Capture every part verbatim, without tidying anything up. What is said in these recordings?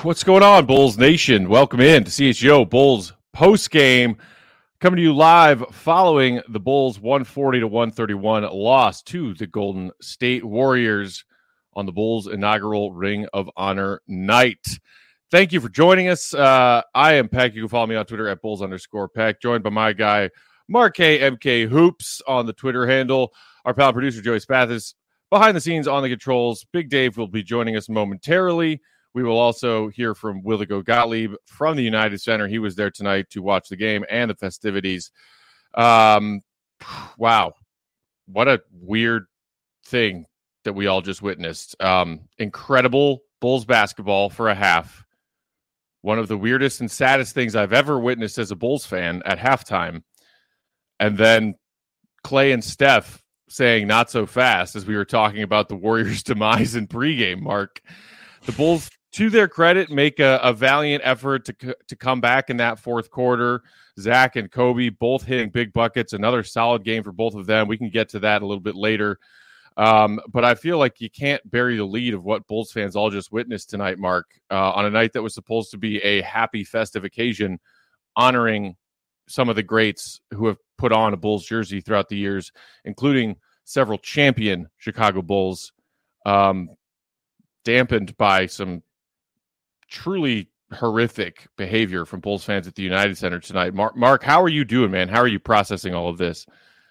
What's going on, Bulls Nation? Welcome in to C H G O Bulls post-game. Coming to you live following the Bulls' one forty to one thirty-one loss to the Golden State Warriors on the Bulls' inaugural Ring of Honor night. Thank you for joining us. Uh, I am Peck. You can follow me on Twitter at Bulls underscore Peck, joined by my guy, Mark K. M K Hoops on the Twitter handle. Our pal producer, Joey Spathis, behind the scenes on the controls. Big Dave will be joining us momentarily. We will also hear from Willigo Gottlieb from the United Center. He was there tonight to watch the game and the festivities. Um, wow. What a weird thing that we all just witnessed. Um, incredible Bulls basketball for a half. One of the weirdest and saddest things I've ever witnessed as a Bulls fan at halftime. And then Clay and Steph saying not so fast as we were talking about the Warriors' demise in pregame, Mark. The Bulls, to their credit, make a, a valiant effort to to come back in that fourth quarter. Zach and Kobe both hitting big buckets. Another solid game for both of them. We can get to that a little bit later. Um, but I feel like you can't bury the lead of what Bulls fans all just witnessed tonight, Mark, uh, on a night that was supposed to be a happy, festive occasion, honoring some of the greats who have put on a Bulls jersey throughout the years, including several champion Chicago Bulls, um, dampened by some truly horrific behavior from Bulls fans at the United Center tonight. Mark, Mark, how are you doing, man? How are you processing all of this?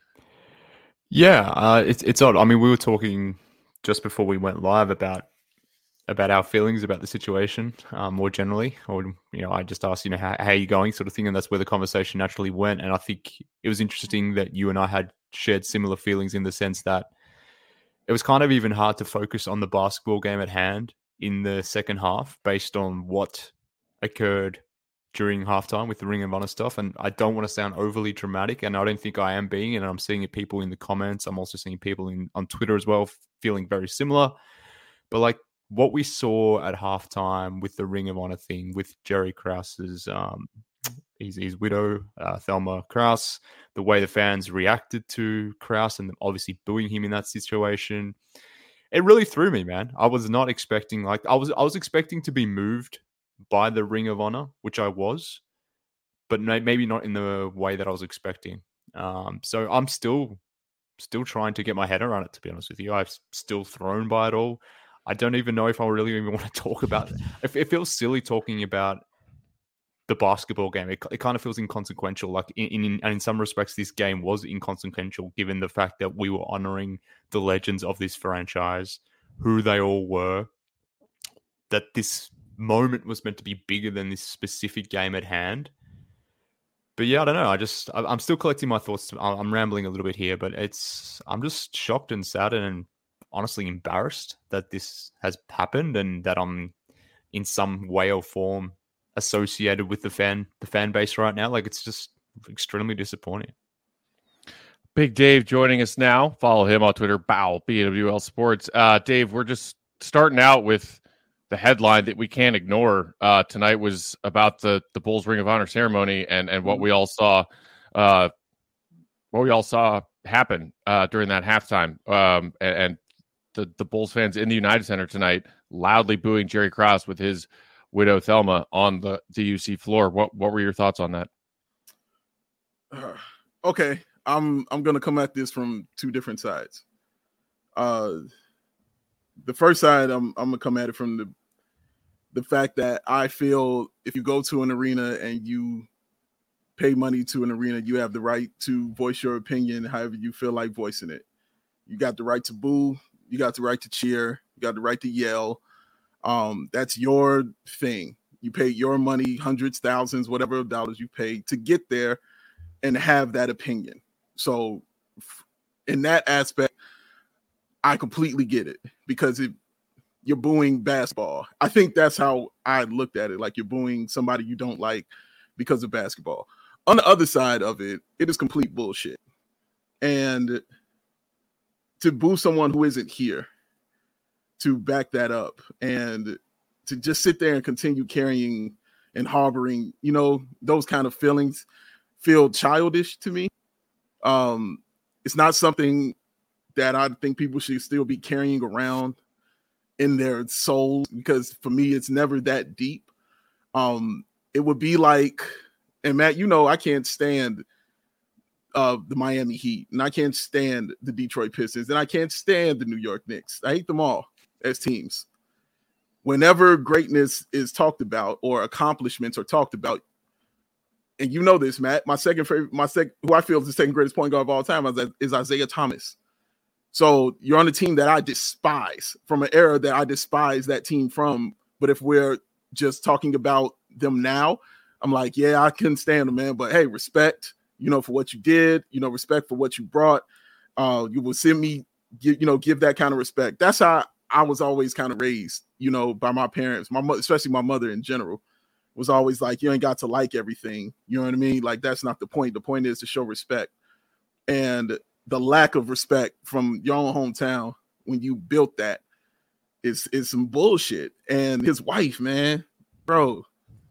Yeah, uh, it's it's odd. I mean, we were talking just before we went live about about our feelings about the situation um, more generally. Or, you know, I just asked, you know, how, how are you going, sort of thing, and that's where the conversation naturally went. And I think it was interesting that you and I had shared similar feelings in the sense that it was kind of even hard to focus on the basketball game at hand in the second half based on what occurred during halftime with the Ring of Honor stuff. And I don't want to sound overly dramatic, and I don't think I am being, and I'm seeing it people in the comments. I'm also seeing people in on Twitter as well feeling very similar. But like what we saw at halftime with the Ring of Honor thing, with Jerry Krause's um, his, his widow, uh, Thelma Krause, the way the fans reacted to Krause and obviously booing him in that situation, it really threw me, man. I was not expecting, like, I was I was expecting to be moved by the Ring of Honor, which I was, but maybe not in the way that I was expecting. Um, so I'm still still trying to get my head around it, to be honest with you. I'm still thrown by it all. I don't even know if I really even want to talk about it. It, it feels silly talking about the basketball game. It, it kind of feels inconsequential. Like in, in and in some respects, this game was inconsequential given the fact that we were honoring the legends of this franchise, who they all were, that this moment was meant to be bigger than this specific game at hand. But yeah, I don't know. I just, I'm still collecting my thoughts. I'm rambling a little bit here, but it's, I'm just shocked and saddened and honestly embarrassed that this has happened and that I'm in some way or form associated with the fan, the fan base right now. Like, it's just extremely disappointing. Big Dave joining us now. Follow him on Twitter, Bow, B W L Sports. Uh, Dave, we're just starting out with the headline that we can't ignore. Uh, tonight was about the the Bulls Ring of Honor ceremony and and what we all saw, uh, what we all saw happen uh, during that halftime. Um, and, and the the Bulls fans in the United Center tonight loudly booing Jerry Krause with his widow Thelma on the, the U C floor. What what were your thoughts on that? Uh, okay. I'm I'm gonna come at this from two different sides. Uh, the first side, I'm I'm gonna come at it from the the fact that I feel if you go to an arena and you pay money to an arena, you have the right to voice your opinion however you feel like voicing it. You got the right to boo, you got the right to cheer, you got the right to yell. Um, that's your thing. You pay your money, hundreds, thousands, whatever dollars you pay to get there and have that opinion. So in that aspect, I completely get it because it, you're booing basketball. I think that's how I looked at it. Like you're booing somebody you don't like because of basketball. On the other side of it, it is complete bullshit. And to boo someone who isn't here, to back that up and to just sit there and continue carrying and harboring, you know, those kind of feelings feel childish to me. Um, it's not something that I think people should still be carrying around in their souls, because for me, it's never that deep. Um, it would be like, and Matt, you know, I can't stand uh, the Miami Heat, and I can't stand the Detroit Pistons, and I can't stand the New York Knicks. I hate them all as teams. Whenever greatness is talked about or accomplishments are talked about, and you know this, Matt, my second favorite, my second, who I feel is the second greatest point guard of all time is, is Isaiah Thomas. So you're on a team that I despise, from an era that I despise that team from. But if we're just talking about them now, I'm like, yeah, I couldn't stand them, man. But hey, respect, you know, for what you did, you know, respect for what you brought. Uh, you will send me, give, you know, give that kind of respect. That's how I was always kind of raised, you know, by my parents, my mother, especially my mother in general, was always like, you ain't got to like everything. You know what I mean? Like, that's not the point. The point is to show respect. And the lack of respect from your own hometown when you built that is, is some bullshit. And his wife, man, bro,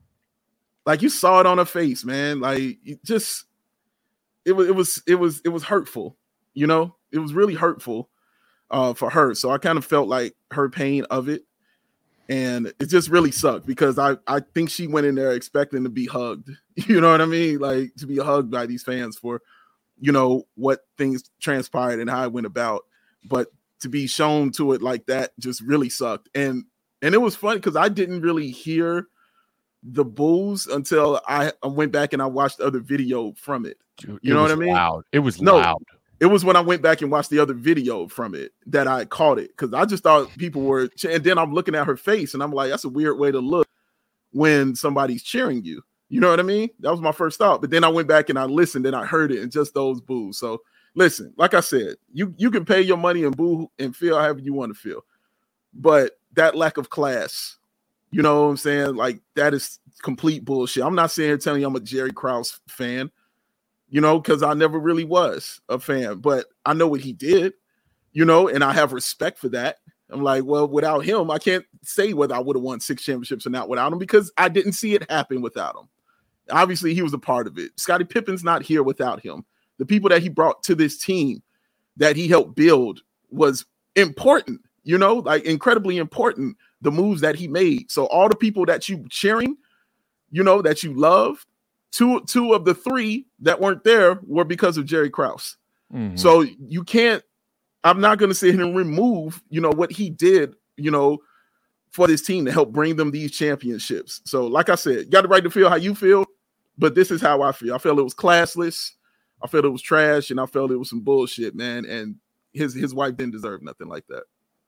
like, you saw it on her face, man. Like, it just, it was, it was, it was, it was hurtful, you know, it was really hurtful. Uh, for her. So I kind of felt like her pain of it. And it just really sucked because I, I think she went in there expecting to be hugged. You know what I mean? Like, to be hugged by these fans for, you know, what things transpired and how it went about. But to be shown to it like that just really sucked. And and it was funny because I didn't really hear the boos until I, I went back and I watched the other video from it. Dude, you know what I was mean? Loud. It was no, loud. It was when I went back and watched the other video from it that I caught it, because I just thought people were, and then I'm looking at her face and I'm like, that's a weird way to look when somebody's cheering you. You know what I mean? That was my first thought. But then I went back and I listened and I heard it and just those boos. So listen, like I said, you, you can pay your money and boo and feel however you want to feel. But that lack of class, you know what I'm saying? Like, that is complete bullshit. I'm not saying telling you I'm a Jerry Krause fan, you know, because I never really was a fan, but I know what he did, you know, and I have respect for that. I'm like, well, without him, I can't say whether I would have won six championships or not without him, because I didn't see it happen without him. Obviously, he was a part of it. Scottie Pippen's not here without him. The people that he brought to this team that he helped build was important, you know, like incredibly important, the moves that he made. So all the people that you cheering, you know, that you love, Two two of the three that weren't there were because of Jerry Krause. Mm-hmm. So you can't, I'm not going to sit here and remove, you know, what he did, you know, for this team to help bring them these championships. So like I said, you got the right to feel how you feel, but this is how I feel. I felt it was classless. I felt it was trash, and I felt it was some bullshit, man. And his, his wife didn't deserve nothing like that.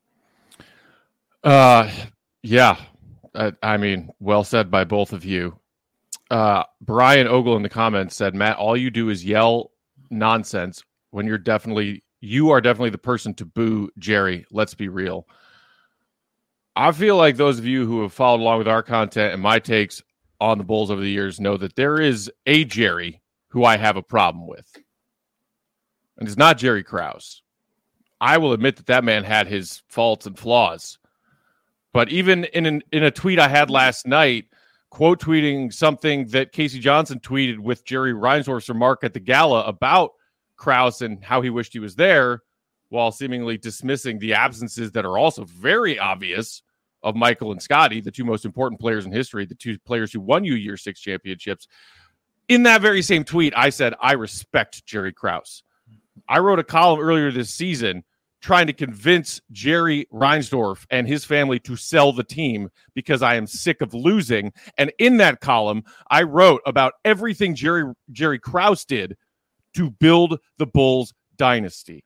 Uh, yeah. I, I mean, well said by both of you. Uh, Brian Ogle in the comments said, Matt, all you do is yell nonsense when you're definitely, you are definitely the person to boo Jerry. Let's be real. I feel like those of you who have followed along with our content and my takes on the Bulls over the years know that there is a Jerry who I have a problem with. And it's not Jerry Krause. I will admit that that man had his faults and flaws. But even in an, in a tweet I had last night, quote tweeting something that Casey Johnson tweeted with Jerry Reinsdorf's remark at the gala about Krause and how he wished he was there, while seemingly dismissing the absences that are also very obvious of Michael and Scotty, the two most important players in history, the two players who won you year six championships. In that very same tweet, I said, I respect Jerry Krause. I wrote a column earlier this season trying to convince Jerry Reinsdorf and his family to sell the team because I am sick of losing. And in that column, I wrote about everything Jerry Jerry Krause did to build the Bulls dynasty.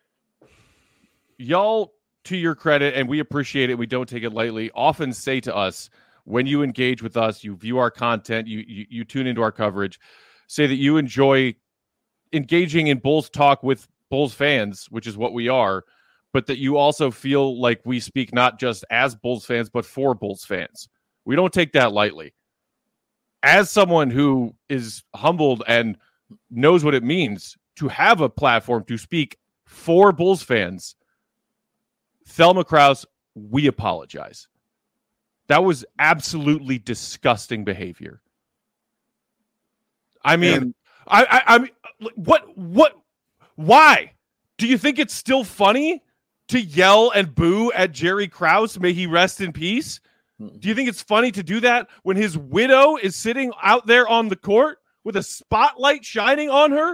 Y'all, to your credit, and we appreciate it, we don't take it lightly, often say to us, when you engage with us, you view our content, you you, you tune into our coverage, say that you enjoy engaging in Bulls talk with Bulls fans, which is what we are, but that you also feel like we speak not just as Bulls fans, but for Bulls fans. We don't take that lightly. As someone who is humbled and knows what it means to have a platform to speak for Bulls fans, Thelma Krause, we apologize. That was absolutely disgusting behavior. I mean, And- I, I, I mean, what, what, why? Do you think it's still funny to yell and boo at Jerry Krause, may he rest in peace? Do you think it's funny to do that when his widow is sitting out there on the court with a spotlight shining on her?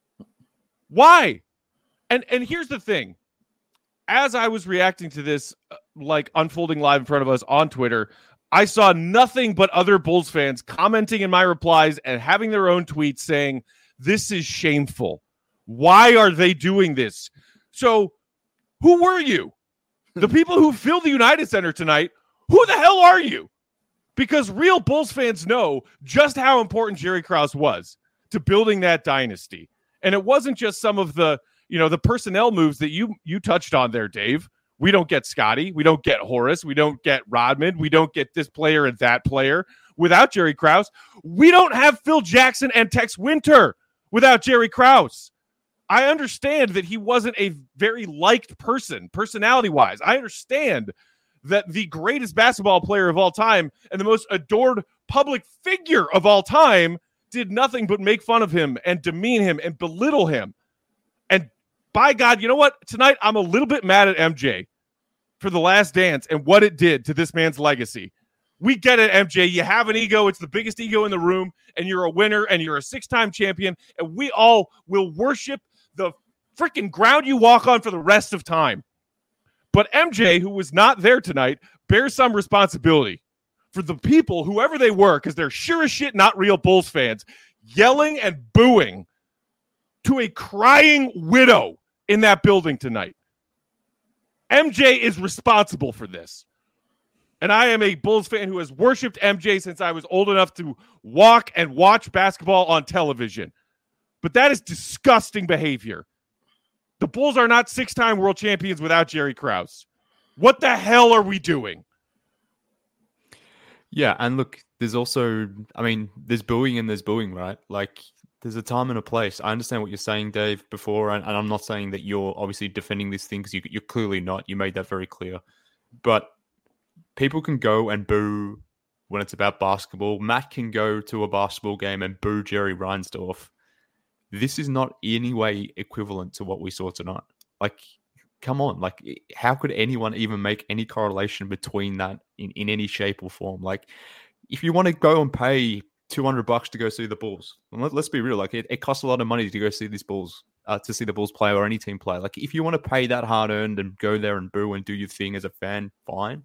Why? And and here's the thing. As I was reacting to this, uh, like unfolding live in front of us on Twitter, I saw nothing but other Bulls fans commenting in my replies and having their own tweets saying, this is shameful. Why are they doing this? So who were you? The people who filled the United Center tonight, who the hell are you? Because real Bulls fans know just how important Jerry Krause was to building that dynasty. And it wasn't just some of the, you know, the personnel moves that you you touched on there, Dave. We don't get Scotty. We don't get Horace. We don't get Rodman. We don't get this player and that player without Jerry Krause. We don't have Phil Jackson and Tex Winter without Jerry Krause. I understand that he wasn't a very liked person, personality-wise. I understand that the greatest basketball player of all time and the most adored public figure of all time did nothing but make fun of him and demean him and belittle him. And by God, you know what? Tonight, I'm a little bit mad at M J for The Last Dance and what it did to this man's legacy. We get it, M J. You have an ego. It's the biggest ego in the room, and you're a winner, and you're a six-time champion, and we all will worship the freaking ground you walk on for the rest of time. But M J, who was not there tonight, bears some responsibility for the people, whoever they were, because they're sure as shit not real Bulls fans, yelling and booing to a crying widow in that building tonight. M J is responsible for this. And I am a Bulls fan who has worshipped M J since I was old enough to walk and watch basketball on television. But that is disgusting behavior. The Bulls are not six-time world champions without Jerry Krause. What the hell are we doing? Yeah, and look, there's also, I mean, there's booing and there's booing, right? Like, there's a time and a place. I understand what you're saying, Dave, before, and, and I'm not saying that you're obviously defending this thing, because you, you're clearly not. You made that very clear. But people can go and boo when it's about basketball. Matt can go to a basketball game and boo Jerry Reinsdorf. This is not in any way equivalent to what we saw tonight. Like, come on. Like, how could anyone even make any correlation between that in, in any shape or form? Like, if you want to go and pay two hundred bucks to go see the Bulls, and let, let's be real, like, it, it costs a lot of money to go see these Bulls, uh, to see the Bulls play or any team play. Like, if you want to pay that hard-earned and go there and boo and do your thing as a fan, fine.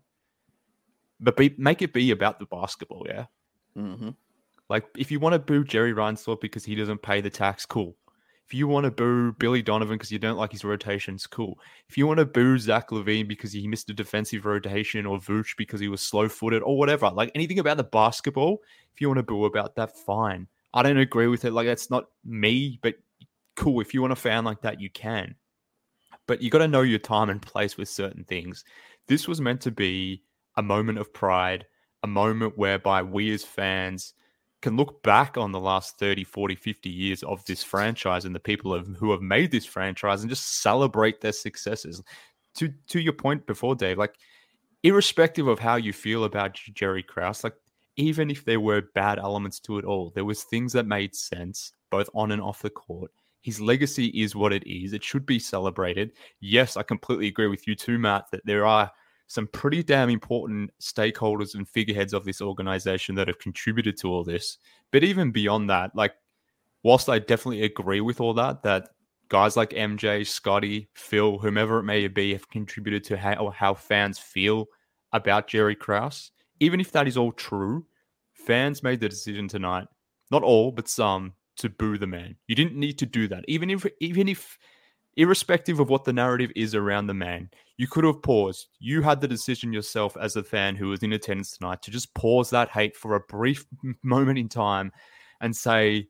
But be, make it be about the basketball, yeah? Mm-hmm. Like, if you want to boo Jerry Reinsdorf because he doesn't pay the tax, cool. If you want to boo Billy Donovan because you don't like his rotations, cool. If you want to boo Zach LaVine because he missed a defensive rotation, or Vooch because he was slow-footed, or whatever, like anything about the basketball, if you want to boo about that, fine. I don't agree with it. Like, that's not me, but cool. If you want a fan like that, you can. But you got to know your time and place with certain things. This was meant to be a moment of pride, a moment whereby we as fans can look back on the last thirty, forty, fifty years of this franchise and the people have, who have made this franchise, and just celebrate their successes. To to your point before, Dave, like, irrespective of how you feel about Jerry Krause, like, even if there were bad elements to it all, there was things that made sense, both on and off the court. His legacy is what it is. It should be celebrated. Yes, I completely agree with you too, Matt, that there are some pretty damn important stakeholders and figureheads of this organization that have contributed to all this. But even beyond that, like, whilst I definitely agree with all that, that guys like M J, Scotty, Phil, whomever it may be, have contributed to how, how fans feel about Jerry Krause. Even if that is all true, fans made the decision tonight, not all, but some, to boo the man. You didn't need to do that. Even if, even if, irrespective of what the narrative is around the man, you could have paused. You had the decision yourself as a fan who was in attendance tonight to just pause that hate for a brief moment in time and say,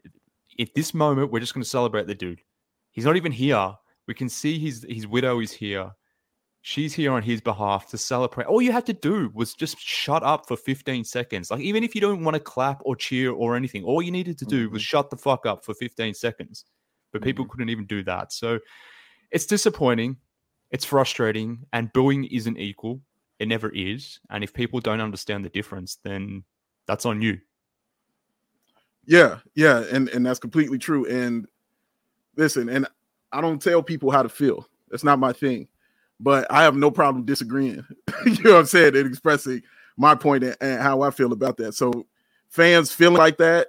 at this moment, we're just going to celebrate the dude. He's not even here. We can see his, his widow is here. She's here on his behalf to celebrate. All you had to do was just shut up for fifteen seconds. Like, even if you don't want to clap or cheer or anything, all you needed to do was shut the fuck up for fifteen seconds. But people mm-hmm. couldn't even do that. So it's disappointing. It's frustrating. And booing isn't equal. It never is. And if people don't understand the difference, then that's on you. Yeah, yeah. And, and that's completely true. And listen, and I don't tell people how to feel. That's not my thing. but I have no problem disagreeing. You know what I'm saying? And expressing my point and, and how I feel about that. So fans feeling like that,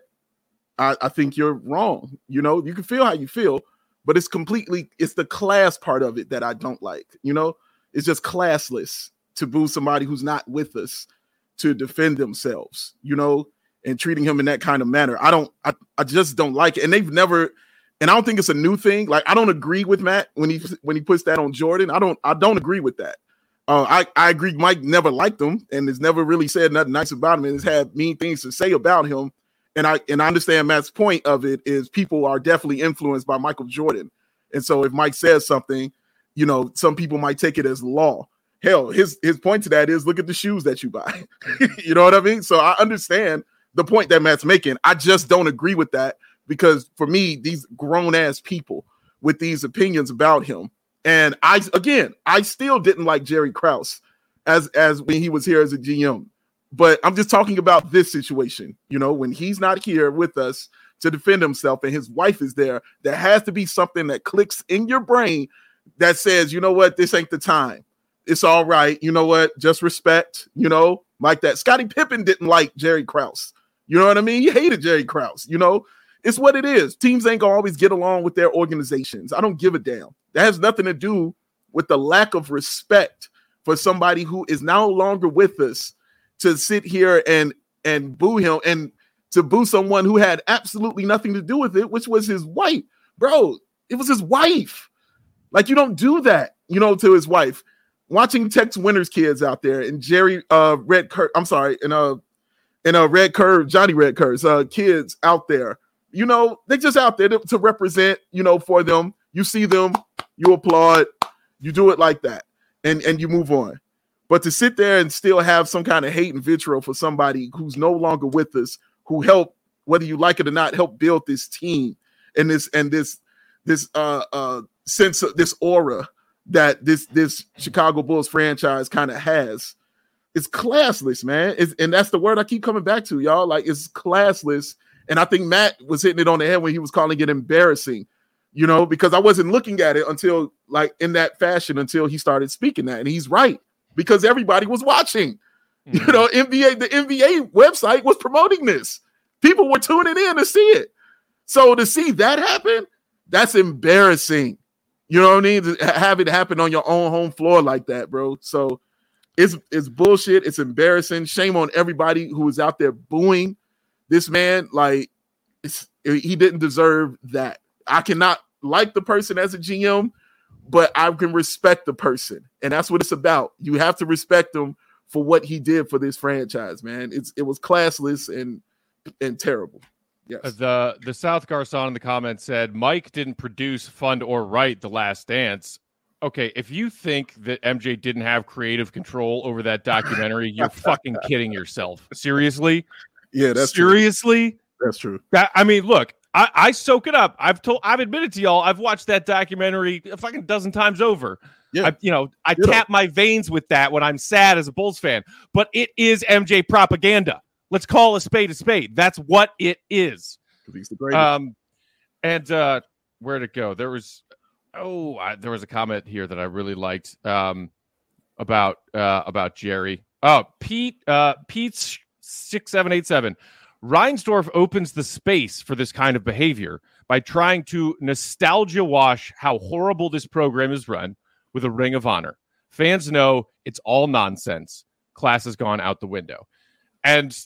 I, I think you're wrong. You know, you can feel how you feel, but it's completely, it's the class part of it that I don't like. You know, it's just classless to boo somebody who's not with us to defend themselves, you know, and treating him in that kind of manner. I don't, I, I just don't like it. And they've never, and I don't think it's a new thing. Like, I don't agree with Matt when he, when he puts that on Jordan. I don't, I don't agree with that. Uh, I, I agree. Mike never liked him and has never really said nothing nice about him and has had mean things to say about him. And I, and I understand Matt's point of it is people are definitely influenced by Michael Jordan. And so if Mike says something, you know, some people might take it as law. Hell, his his point to that is look at the shoes that you buy. You know what I mean? So I understand the point that Matt's making. I just don't agree with that because for me, these grown ass people with these opinions about him. And I, again, I still didn't like Jerry Krause as, as when he was here as a G M, but I'm just talking about this situation. You know, when he's not here with us to defend himself and his wife is there, there has to be something that clicks in your brain that says, you know what, this ain't the time. It's all right. You know what? Just respect, you know, like that. Scottie Pippen didn't like Jerry Krause. You know what I mean? He hated Jerry Krause. You know, it's what it is. Teams ain't gonna always get along with their organizations. I don't give a damn. That has nothing to do with the lack of respect for somebody who is no longer with us to sit here and, and boo him and to boo someone who had absolutely nothing to do with it, which was his wife. Bro, it was his wife. Like, you don't do that, you know, to his wife. Watching Tex Winter's kids out there and Jerry uh Red Curve, I'm sorry, and uh and uh Red Curve, Johnny Red Curve's uh kids out there, you know, they just out there to, to represent, you know, for them. You see them, you applaud, you do it like that, and and you move on. But to sit there and still have some kind of hate and vitriol for somebody who's no longer with us, who helped, whether you like it or not, help build this team and this and this this uh uh sense of this aura that this this Chicago Bulls franchise kind of has. It's classless, man. It's, and that's the word I keep coming back to, y'all. Like, it's classless. And I think Matt was hitting it on the head when he was calling it embarrassing, you know, because I wasn't looking at it until, like, in that fashion until he started speaking that. And he's right, because everybody was watching. Mm-hmm. You know, N B A, the N B A website was promoting this. People were tuning in to see it. So to see that happen, that's embarrassing. You know what I mean? To have it happen on your own home floor like that, bro. So it's it's bullshit. It's embarrassing. Shame on everybody who was out there booing this man. Like, it's, he didn't deserve that. I cannot like the person as a G M, but I can respect the person. And that's what it's about. You have to respect him for what he did for this franchise, man. It's It was classless and and terrible. Yes. The the South Garcon in the comments said Mike didn't produce, fund, or write The Last Dance. Okay, if you think that M J didn't have creative control over that documentary, you're fucking kidding yourself. Seriously? Yeah, that's seriously. True. That's true. That, I mean, look, I, I soak it up. I've told, I've admitted to y'all, I've watched that documentary a fucking dozen times over. Yeah, I, you know, I you tap know. my veins with that when I'm sad as a Bulls fan. But it is M J propaganda. Let's call a spade a spade. That's what it is. He's the greatest. Um, and uh, where'd it go? There was, oh, I, there was a comment here that I really liked um, about uh, about Jerry. Oh, Pete, uh, Pete's six seven eight seven. Reinsdorf opens the space for this kind of behavior by trying to nostalgia wash how horrible this program is run with a ring of honor. Fans know it's all nonsense. Class has gone out the window. And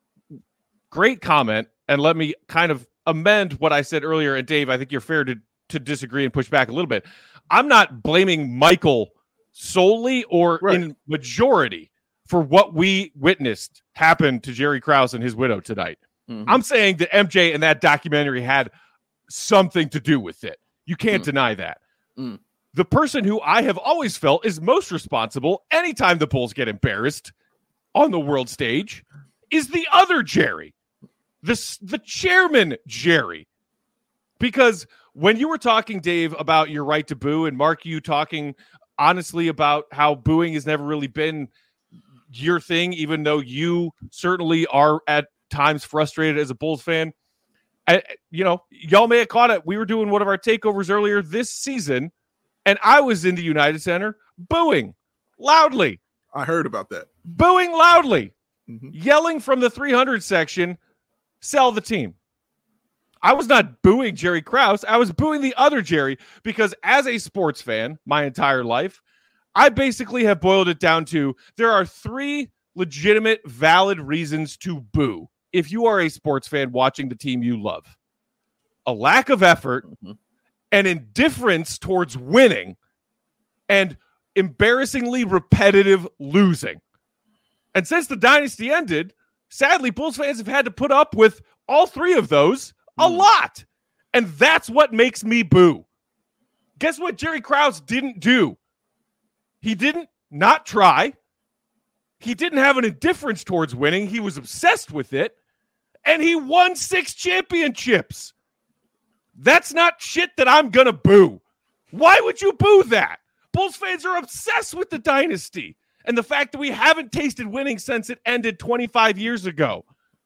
great comment, and let me kind of amend what I said earlier. And Dave, I think you're fair to, to disagree and push back a little bit. I'm not blaming Michael solely or right. in majority for what we witnessed happen to Jerry Krause and his widow tonight. Mm-hmm. I'm saying that M J and that documentary had something to do with it. You can't mm. deny that. Mm. The person who I have always felt is most responsible anytime the Bulls get embarrassed on the world stage is the other Jerry. This the chairman, Jerry. Because when you were talking, Dave, about your right to boo, and Mark, you talking honestly about how booing has never really been your thing, even though you certainly are at times frustrated as a Bulls fan. I, you know, y'all may have caught it. We were doing one of our takeovers earlier this season, and I was in the United Center booing loudly. I heard about that. Booing loudly. Mm-hmm. Yelling from the three hundred section, sell the team. I was not booing Jerry Krause. I was booing the other Jerry because as a sports fan my entire life, I basically have boiled it down to there are three legitimate, valid reasons to boo if you are a sports fan watching the team you love. A lack of effort, mm-hmm. an indifference towards winning, and embarrassingly repetitive losing. And since the dynasty ended, sadly, Bulls fans have had to put up with all three of those a mm. lot. And that's what makes me boo. Guess what Jerry Krause didn't do? He didn't not try. He didn't have an indifference towards winning. He was obsessed with it. And he won six championships. That's not shit that I'm going to boo. Why would you boo that? Bulls fans are obsessed with the dynasty and the fact that we haven't tasted winning since it ended twenty-five years ago.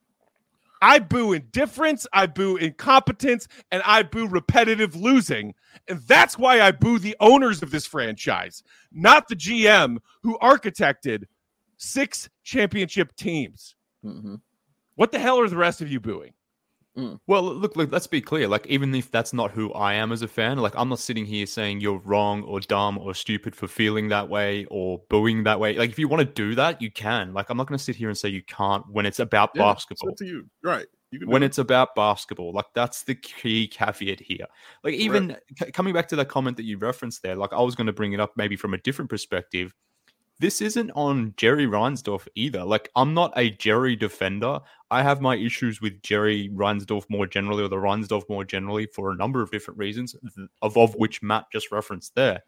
I boo indifference, I boo incompetence, and I boo repetitive losing. And that's why I boo the owners of this franchise, not the G M who architected six championship teams. Mm-hmm. What the hell are the rest of you booing? Mm. Well, look, look, let's be clear. Like, even if that's not who I am as a fan, like, I'm not sitting here saying you're wrong or dumb or stupid for feeling that way or booing that way. Like, if you want to do that, you can. Like, I'm not going to sit here and say you can't when it's about yeah, basketball. It's up to you, right? You can when it. it's about basketball, like, that's the key caveat here. Like, even right. c- coming back to that comment that you referenced there, like, I was going to bring it up maybe from a different perspective. This isn't on Jerry Reinsdorf either. Like, I'm not a Jerry defender. I have my issues with Jerry Reinsdorf more generally, or the Reinsdorf more generally, for a number of different reasons, of, of which Matt just referenced there.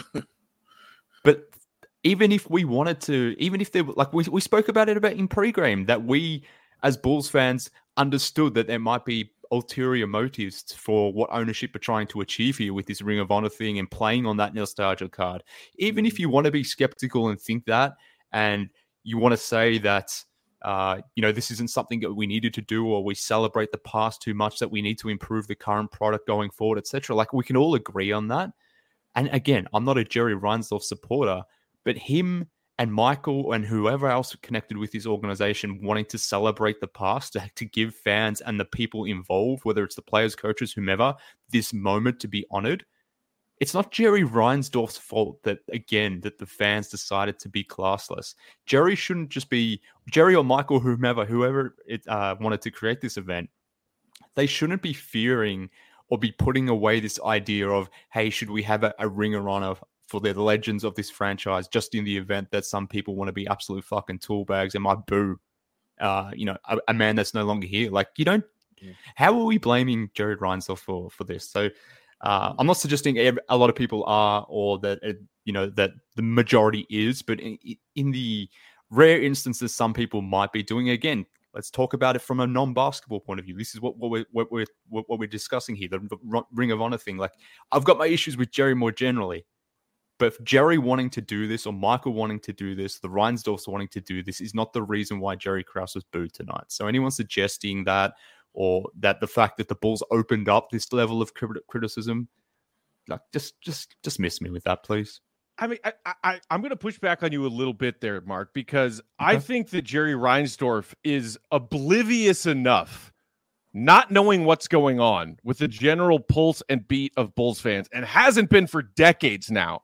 But even if we wanted to, even if they like, we, we spoke about it about in pregame, that we, as Bulls fans, understood that there might be ulterior motives for what ownership are trying to achieve here with this Ring of Honor thing and playing on that nostalgia card. Even if you want to be skeptical and think that, and you want to say that, uh, you know, this isn't something that we needed to do, or we celebrate the past too much, that we need to improve the current product going forward, et cetera. Like, we can all agree on that. And again, I'm not a Jerry Reinsdorf supporter, but him and Michael and whoever else connected with this organization wanting to celebrate the past, to, to give fans and the people involved, whether it's the players, coaches, whomever, this moment to be honored. It's not Jerry Reinsdorf's fault that, again, that the fans decided to be classless. Jerry shouldn't just be, Jerry or Michael, whomever, whoever it uh, wanted to create this event, they shouldn't be fearing or be putting away this idea of, hey, should we have a, a Ring of Honor for the legends of this franchise, just in the event that some people want to be absolute fucking tool bags and might boo, uh, you know, a, a man that's no longer here. Like, you don't, yeah. How are we blaming Jerry Reinsdorf for, for this? So uh, I'm not suggesting every, a lot of people are, or that, uh, you know, that the majority is, but in, in the rare instances, some people might be doing it. Again, let's talk about it from a non-basketball point of view. This is what, what, we're, what, we're, what we're discussing here, the, the Ring of Honor thing. Like, I've got my issues with Jerry more generally. But if Jerry wanting to do this, or Michael wanting to do this, the Reinsdorfs wanting to do this, is not the reason why Jerry Krause was booed tonight. So anyone suggesting that, or that the fact that the Bulls opened up this level of criticism, like, just just just miss me with that, please. I mean, I, I, I'm going to push back on you a little bit there, Mark, because okay. I think that Jerry Reinsdorf is oblivious enough, not knowing what's going on with the general pulse and beat of Bulls fans, and hasn't been for decades now,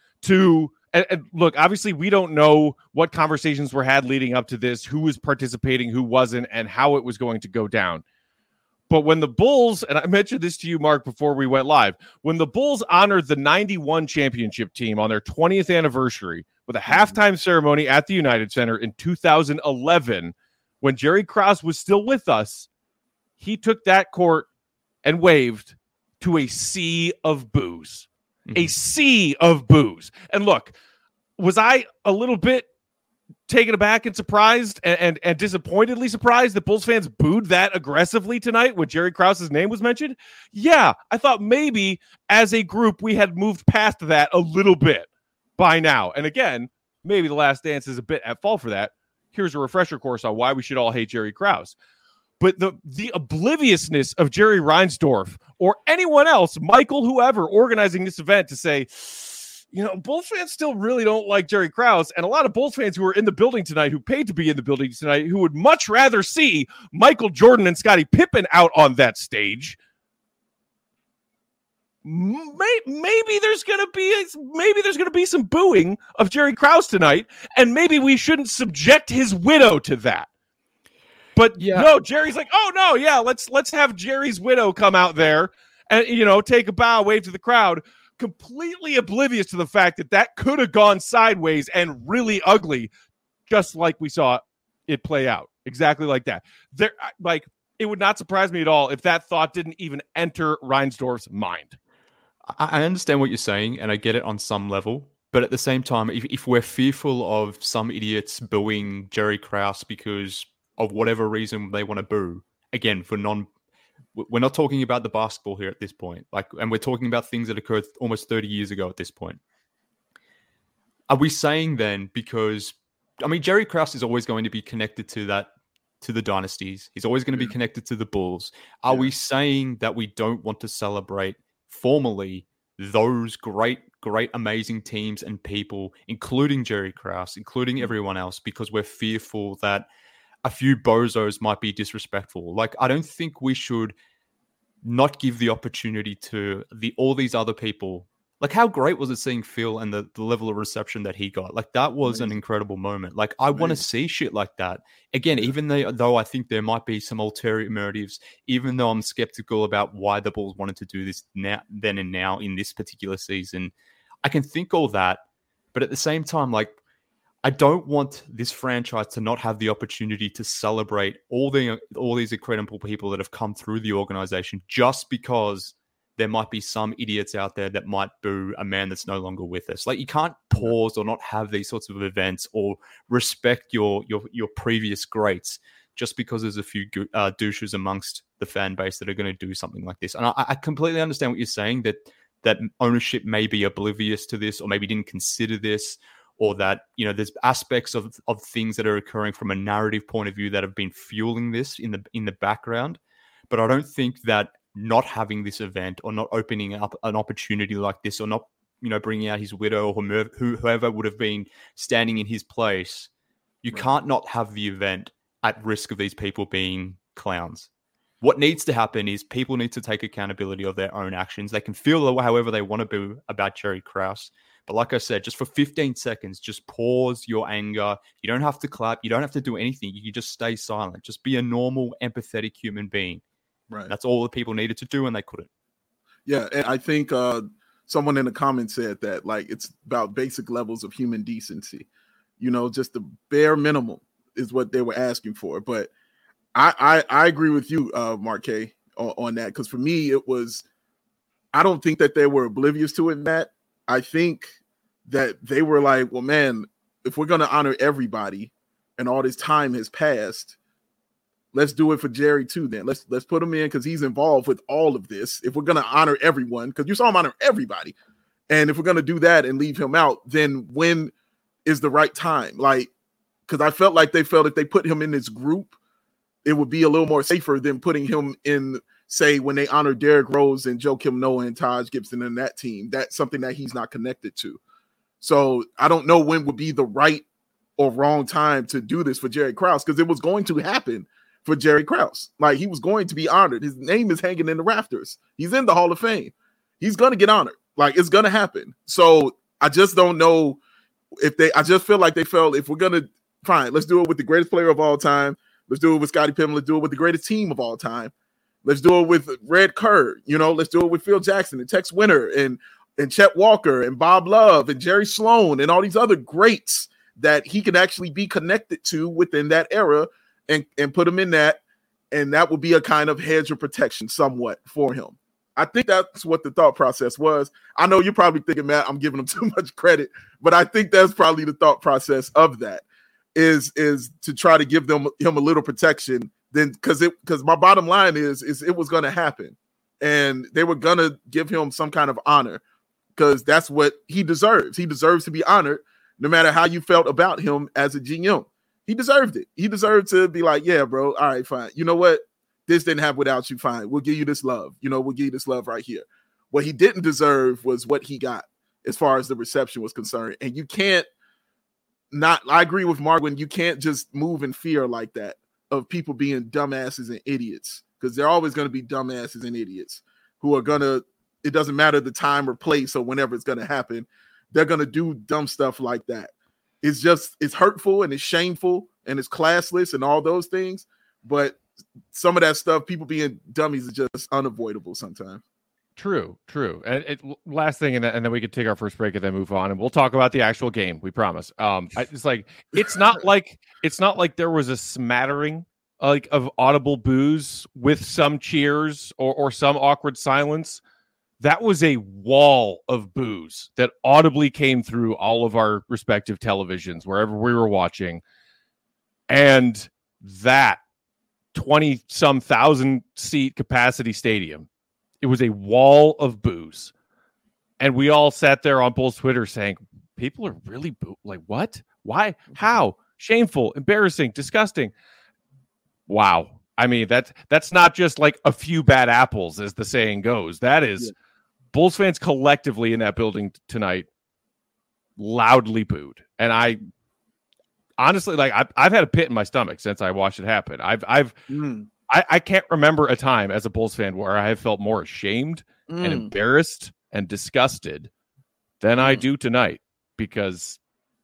to and, and look, obviously we don't know what conversations were had leading up to this, who was participating, who wasn't, and how it was going to go down. But when the Bulls, and I mentioned this to you, Mark, before we went live, when the Bulls honored the ninety-one championship team on their twentieth anniversary with a halftime ceremony at the United Center in two thousand eleven, when Jerry Krause was still with us, he took that court and waved to a sea of boos. A sea of boos. And look, was I a little bit taken aback and surprised and, and, and disappointedly surprised that Bulls fans booed that aggressively tonight when Jerry Krause's name was mentioned? Yeah, I thought maybe as a group we had moved past that a little bit by now. And again, maybe The Last Dance is a bit at fault for that. Here's a refresher course on why we should all hate Jerry Krause. But the, the obliviousness of Jerry Reinsdorf or anyone else, Michael, whoever, organizing this event to say, you know, Bulls fans still really don't like Jerry Krause, and a lot of Bulls fans who are in the building tonight, who paid to be in the building tonight, who would much rather see Michael Jordan and Scottie Pippen out on that stage. Maybe there's gonna be maybe there's gonna be some booing of Jerry Krause tonight, and maybe we shouldn't subject his widow to that. But yeah. no, Jerry's like, oh no, yeah, let's let's have Jerry's widow come out there and, you know, take a bow, wave to the crowd, completely oblivious to the fact that that could have gone sideways and really ugly, just like we saw it play out, exactly like that. There, like, it would not surprise me at all if that thought didn't even enter Reinsdorf's mind. I understand what you're saying, and I get it on some level. But at the same time, if, if we're fearful of some idiots booing Jerry Krause because of whatever reason they want to boo, again, for non, we're not talking about the basketball here at this point. Like, and we're talking about things that occurred almost thirty years ago at this point. Are we saying then, because, I mean, Jerry Krause is always going to be connected to that, to the dynasties. He's always going to be connected to the Bulls. Are yeah. we saying that we don't want to celebrate formally those great, great, amazing teams and people, including Jerry Krause, including everyone else, because we're fearful that a few bozos might be disrespectful? Like, I don't think we should not give the opportunity to the all these other people. Like, how great was it seeing Phil and the, the level of reception that he got? Like, that was Amazing. An incredible moment. Like, I want to see shit like that. Again, even though, though I think there might be some ulterior motives, even though I'm skeptical about why the Bulls wanted to do this now, then and now in this particular season, I can think all that. But at the same time, like, I don't want this franchise to not have the opportunity to celebrate all the all these incredible people that have come through the organization just because there might be some idiots out there that might boo a man that's no longer with us. Like, you can't pause or not have these sorts of events or respect your your your previous greats just because there's a few uh, douches amongst the fan base that are going to do something like this. And I, I completely understand what you're saying, that that ownership may be oblivious to this, or maybe didn't consider this, or that, you know, there's aspects of, of things that are occurring from a narrative point of view that have been fueling this in the in the background. But I don't think that not having this event, or not opening up an opportunity like this, or not, you know, bringing out his widow, or whoever would have been standing in his place, you right. can't not have the event at risk of these people being clowns. What needs to happen is people need to take accountability of their own actions. They can feel however they want to be about Jerry Krause. But like I said, just for fifteen seconds, just pause your anger. You don't have to clap. You don't have to do anything. You can just stay silent. Just be a normal, empathetic human being. Right. That's all the people needed to do, and they couldn't. Yeah, and I think uh, someone in the comments said that, like, it's about basic levels of human decency. You know, just the bare minimum is what they were asking for. But I I, I agree with you, uh, Mark K, on, on that, because for me, it was, I don't think that they were oblivious to it, Matt. I think that they were like, well, man, if we're going to honor everybody and all this time has passed, let's do it for Jerry too. Then let's let's put him in, because he's involved with all of this. If we're going to honor everyone, because you saw him honor everybody, and if we're going to do that and leave him out, then when is the right time? Like, because I felt like they felt if they put him in this group, it would be a little more safer than putting him in, say, when they honor Derrick Rose and Joakim Noah and Taj Gibson and that team. That's something that he's not connected to. So I don't know when would be the right or wrong time to do this for Jerry Krause, because it was going to happen for Jerry Krause. Like, he was going to be honored. His name is hanging in the rafters. He's in the Hall of Fame. He's going to get honored. Like, it's going to happen. So I just don't know if they, I just feel like they felt, if we're going to, fine, let's do it with the greatest player of all time. Let's do it with Scottie Pippen. Let's do it with the greatest team of all time. Let's do it with Red Kerr. You know, let's do it with Phil Jackson and Tex Winter and, and Chet Walker and Bob Love and Jerry Sloan and all these other greats that he can actually be connected to within that era, and, and put him in that. And that would be a kind of hedge of protection somewhat for him. I think that's what the thought process was. I know you're probably thinking, Matt, I'm giving him too much credit, but I think that's probably the thought process of that, is, is to try to give them him a little protection. Then, because it because my bottom line is, is it was going to happen, and they were going to give him some kind of honor, because that's what he deserves. He deserves to be honored, no matter how you felt about him as a G M. He deserved it. He deserved to be like, yeah, bro, all right, fine. You know what? This didn't happen without you, fine. We'll give you this love. You know, we'll give you this love right here. What he didn't deserve was what he got. as far as the reception was concerned. And you can't not, I agree with Marwin, you can't just move in fear like that of people being dumbasses and idiots, because they're always going to be dumbasses and idiots who are going to, it doesn't matter the time or place or whenever it's going to happen, they're going to do dumb stuff like that. It's just, it's hurtful and it's shameful and it's classless and all those things. But some of that stuff, people being dummies, is just unavoidable sometimes. True, true. And it, last thing, and then, and then we could take our first break and then move on, and we'll talk about the actual game. We promise. Um, I, it's like it's not like it's not like there was a smattering like of audible boos with some cheers or or some awkward silence. That was a wall of boos that audibly came through all of our respective televisions wherever we were watching, and that twenty some thousand seat capacity stadium. It was a wall of boos. And we all sat there on Bulls Twitter saying, people are really boo. Like, what? Why? How? Shameful, embarrassing, disgusting. Wow. I mean, that's, that's not just like a few bad apples, as the saying goes. That is yeah. Bulls fans collectively in that building t- tonight loudly booed. And I honestly, like, I've, I've had a pit in my stomach since I watched it happen. I've, I've, mm. I, I can't remember a time as a Bulls fan where I have felt more ashamed mm. and embarrassed and disgusted than mm. I do tonight, because,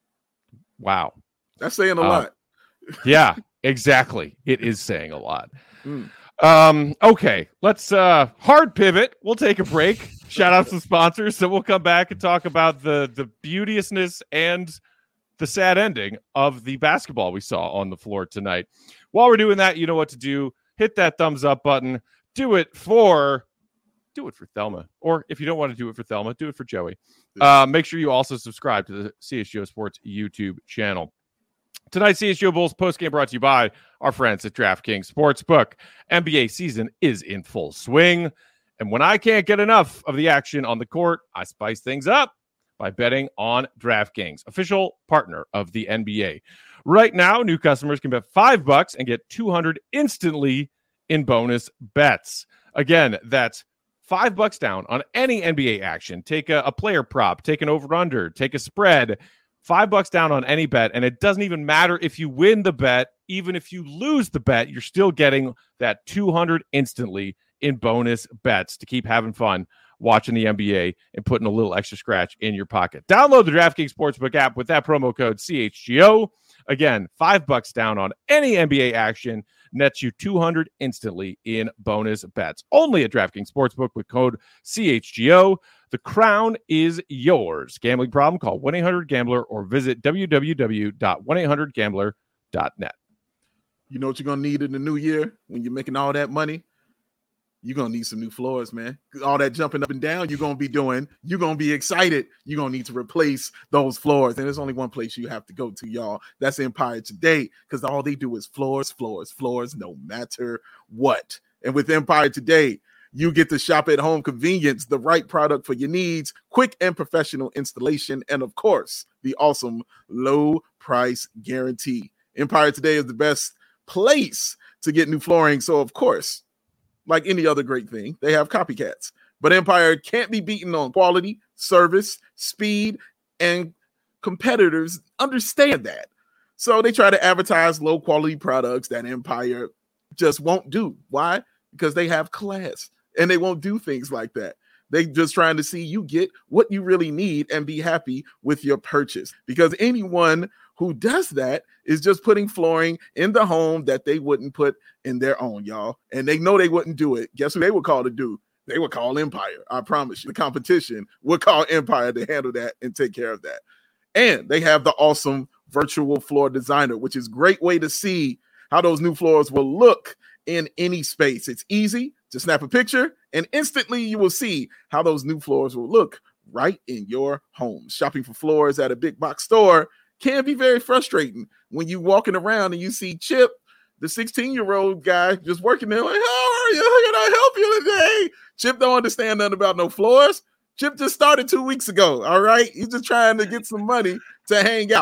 wow. That's saying a uh, lot. Yeah, exactly. It is saying a lot. Mm. Um, okay, let's uh, hard pivot. We'll take a break. Shout out some sponsors. So we'll come back and talk about the, the beauteousness and the sad ending of the basketball we saw on the floor tonight. While we're doing that, you know what to do. Hit that thumbs up button. Do it for, do it for Thelma. Or if you don't want to do it for Thelma, do it for Joey. Uh, make sure you also subscribe to the C H G O Sports YouTube channel. Tonight's C H G O Bulls postgame brought to you by our friends at DraftKings Sportsbook. N B A season is in full swing. And when I can't get enough of the action on the court, I spice things up by betting on DraftKings, official partner of the N B A. Right now, new customers can bet five bucks and get two hundred instantly in bonus bets. Again, that's five bucks down on any N B A action. Take a, a player prop, take an over-under, take a spread. Five bucks down on any bet, and it doesn't even matter if you win the bet. Even if you lose the bet, you're still getting that two hundred instantly in bonus bets to keep having fun watching the N B A and putting a little extra scratch in your pocket. Download the DraftKings Sportsbook app with that promo code C H G O. Again, five bucks down on any N B A action nets you two hundred instantly in bonus bets. Only at DraftKings Sportsbook with code C H G O. The crown is yours. Gambling problem? Call one eight hundred gambler or visit w w w dot one eight hundred gambler dot net. You know what you're going to need in the new year when you're making all that money? You're going to need some new floors, man. All that jumping up and down you're going to be doing, you're going to be excited. You're going to need to replace those floors. And there's only one place you have to go to, y'all. That's Empire Today, because all they do is floors, floors, floors, no matter what. And with Empire Today, you get to shop at home convenience, the right product for your needs, quick and professional installation, and, of course, the awesome low price guarantee. Empire Today is the best place to get new flooring. So, of course, like any other great thing, they have copycats. But Empire can't be beaten on quality, service, speed, and competitors understand that. So they try to advertise low-quality products that Empire just won't do. Why? Because they have class, and they won't do things like that. They just trying to see you get what you really need and be happy with your purchase. Because anyone who does that is just putting flooring in the home that they wouldn't put in their own, y'all. And they know they wouldn't do it. Guess who they would call to do? They would call Empire. I promise you. The competition would call Empire to handle that and take care of that. And they have the awesome virtual floor designer, which is a great way to see how those new floors will look in any space. It's easy to snap a picture, and instantly you will see how those new floors will look right in your home. Shopping for floors at a big box store can be very frustrating when you walking around and you see Chip, the sixteen-year-old guy, just working there like, how are you? How can I help you today? Chip don't understand nothing about no floors. Chip just started two weeks ago, all right? He's just trying to get some money to hang out.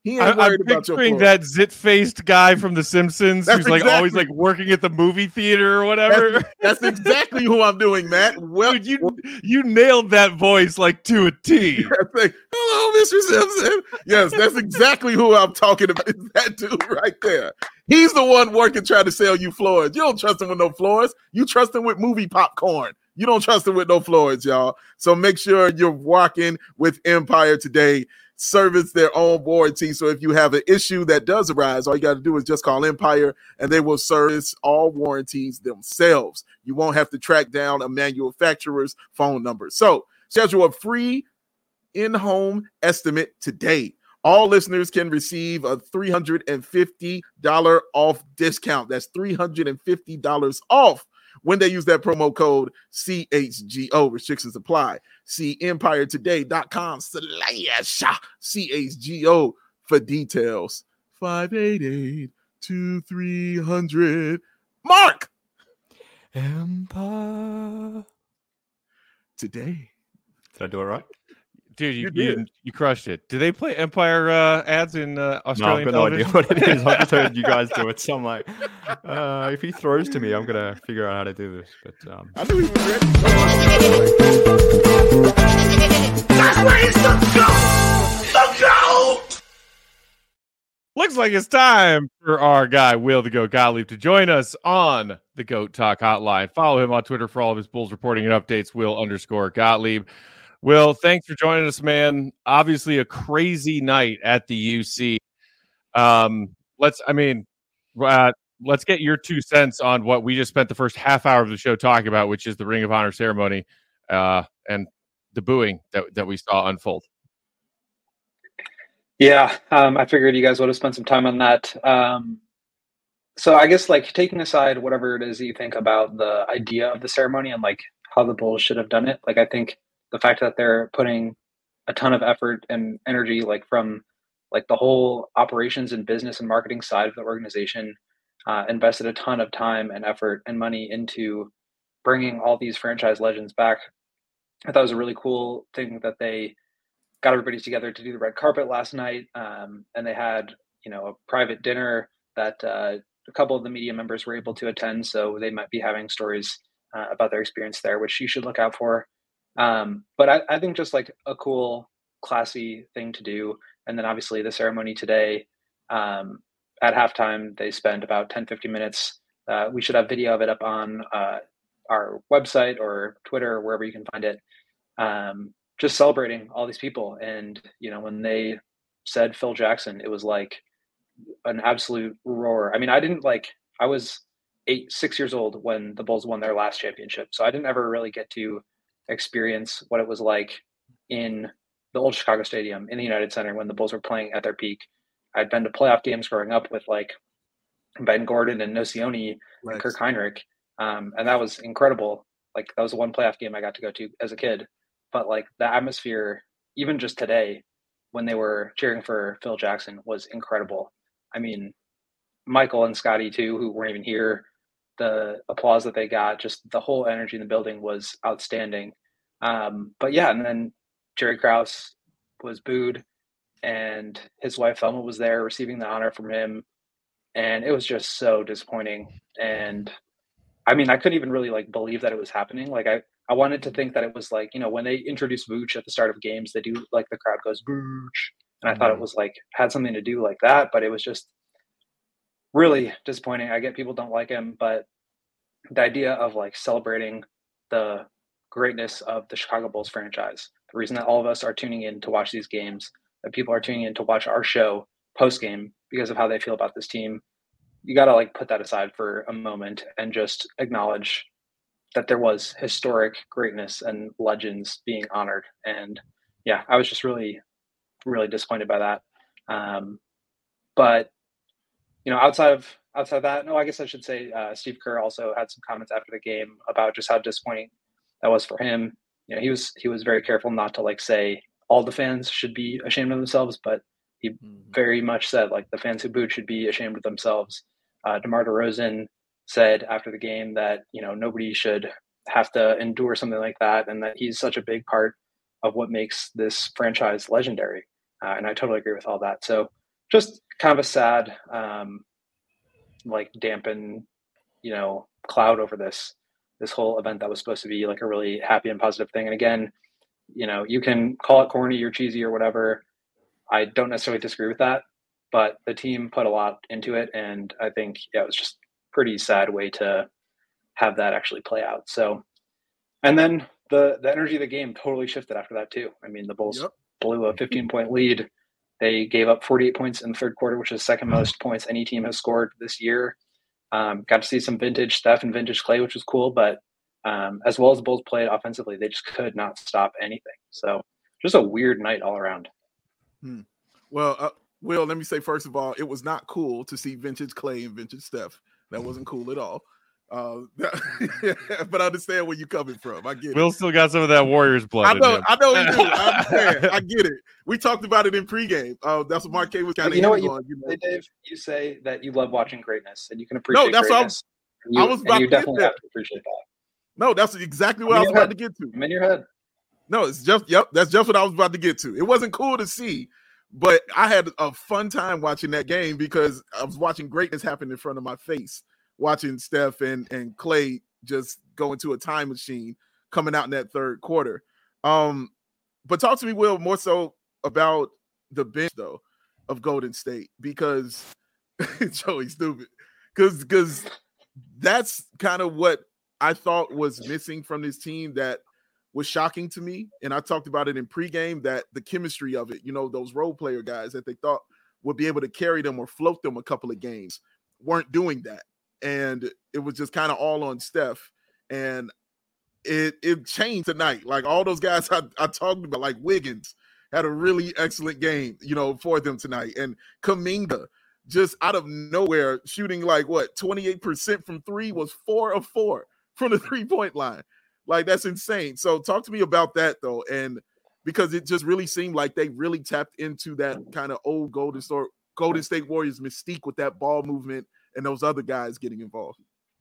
He ain't I, I'm worried about your picturing Florida. that zit-faced guy from The Simpsons That's who's like exactly- always like working at the movie theater or whatever. That's, that's exactly who I'm doing, Matt. Well, Dude, you you nailed that voice like to a T. like, hello, Mister Simpson. Yes, that's exactly who I'm talking about. Is that dude right there. He's the one working trying to sell you floors. You don't trust him with no floors. You trust him with movie popcorn. You don't trust him with no floors, y'all. So make sure you're walking with Empire today. Service their own warranty. So if you have an issue that does arise, all you got to do is just call Empire and they will service all warranties themselves. You won't have to track down a manufacturer's phone number. So schedule a free in-home estimate today. All listeners can receive a three hundred fifty dollars off discount. That's three hundred fifty dollars off when they use that promo code C H G O. Restrictions apply. See empire today dot com slash C H G O for details. five eight eight, two three hundred. Mark! Empire. Today. Did I do it right? Dude, you You you, did. you crushed it. Do they play Empire uh, ads in uh, No, I've Australian got no idea television? what it is. I've just heard you guys do it. So I'm like, uh, if he throws to me, I'm going to figure out how to do this. But um, I knew he was ready. That's where he's the goat! The goat! Looks like it's time for our guy, Will the Goat Gottlieb, to join us on the Goat Talk Hotline. Follow him on Twitter for all of his Bulls reporting and updates, Will underscore Gottlieb. Will, thanks for joining us, man. Obviously, a crazy night at the U C. Um, let's, I mean, uh, let's get your two cents on what we just spent the first half hour of the show talking about, which is the Ring of Honor ceremony uh, and the booing that, that we saw unfold. Yeah, um, I figured you guys would have spent some time on that. Um, so I guess like taking aside whatever it is that you think about the idea of the ceremony and like how the Bulls should have done it, like I think the fact that they're putting a ton of effort and energy, like from like the whole operations and business and marketing side of the organization, uh, invested a ton of time and effort and money into bringing all these franchise legends back. I thought it was a really cool thing that they got everybody together to do the red carpet last night. Um, and they had, you know, a private dinner that uh, a couple of the media members were able to attend. So they might be having stories uh, about their experience there, which you should look out for. Um, but I, I think just like a cool, classy thing to do. And then obviously the ceremony today, um, at halftime, they spent about ten, fifteen minutes. Uh, we should have video of it up on uh, our website or Twitter or wherever you can find it. Um, just celebrating all these people. And, you know, when they said Phil Jackson, it was like an absolute roar. I mean, I didn't like, I was eight, six years old when the Bulls won their last championship. So I didn't ever really get to experience what it was like in the old Chicago Stadium in the United Center when the Bulls were playing at their peak. I'd been to playoff games growing up with like Ben Gordon and Nocioni Right. and Kirk Heinrich. Um, and that was incredible. Like that was the one playoff game I got to go to as a kid. But like the atmosphere, even just today, when they were cheering for Phil Jackson was incredible. I mean, Michael and Scotty too, who weren't even here, the applause that they got, just the whole energy in the building was outstanding. Um, but yeah, and then Jerry Krause was booed and his wife Thelma was there receiving the honor from him. And it was just so disappointing. And I mean, I couldn't even really like believe that it was happening. Like I, I wanted to think that it was like, you know, when they introduce Vooch at the start of games, they do like the crowd goes Vooch. And I thought it was like, had something to do like that, but it was just really disappointing. I get people don't like him, but the idea of like celebrating the greatness of the Chicago Bulls franchise, the reason that all of us are tuning in to watch these games, that people are tuning in to watch our show post game because of how they feel about this team. You got to like put that aside for a moment and just acknowledge that there was historic greatness and legends being honored. And yeah, I was just really, really disappointed by that. Um, but you know, outside of outside of that, no, I guess I should say uh, Steve Kerr also had some comments after the game about just how disappointing that was for him. You know, he was he was very careful not to like say all the fans should be ashamed of themselves, but he mm-hmm. very much said like the fans who booed should be ashamed of themselves. Uh, DeMar DeRozan said after the game that, you know, nobody should have to endure something like that, and that he's such a big part of what makes this franchise legendary. Uh, and I totally agree with all that. So just kind of a sad, um, like dampen, you know, cloud over this this whole event that was supposed to be like a really happy and positive thing. And again, you know, you can call it corny or cheesy or whatever. I don't necessarily disagree with that, but the team put a lot into it, and I think yeah, it was just a pretty sad way to have that actually play out. So, and then the the energy of the game totally shifted after that too. I mean, the Bulls yep. blew a fifteen point lead. They gave up forty-eight points in the third quarter, which is the second most points any team has scored this year. Um, got to see some vintage Steph and vintage Clay, which was cool, but um, as well as the Bulls played offensively, they just could not stop anything. So just a weird night all around. Hmm. Well, uh, Will, let me say, first of all, it was not cool to see vintage Clay and vintage Steph. That wasn't cool at all. Uh, but I understand where you're coming from. I get Will it. still got some of that Warriors blood. I know, in him. I know you do. I understand. I get it. We talked about it in pregame. Uh, that's what Mark K was kind of you know what you, on. You know? Say, Dave, you say that you love watching greatness and you can appreciate no, that's greatness. What I was, you, I was about you to get definitely there. have to appreciate that. No, that's exactly what I was head. about to get to. I'm in your head. No, it's just, yep, that's just what I was about to get to. It wasn't cool to see, but I had a fun time watching that game because I was watching greatness happen in front of my face, watching Steph and, and Clay just go into a time machine coming out in that third quarter. Um, but talk to me, Will, more so about the bench, though, of Golden State, because Joey's stupid. Because because that's kind of what I thought was missing from this team that was shocking to me. And I talked about it in pregame, that the chemistry of it, you know, those role player guys that they thought would be able to carry them or float them a couple of games weren't doing that. And it was just kind of all on Steph. And it it changed tonight. Like all those guys I, I talked about, like Wiggins had a really excellent game, you know, for them tonight. And Kuminga just out of nowhere shooting like what, twenty-eight percent from three, was four of four from the three-point line. Like that's insane. So talk to me about that though. And because it just really seemed like they really tapped into that kind of old Golden State, Golden State Warriors mystique with that ball movement and those other guys getting involved.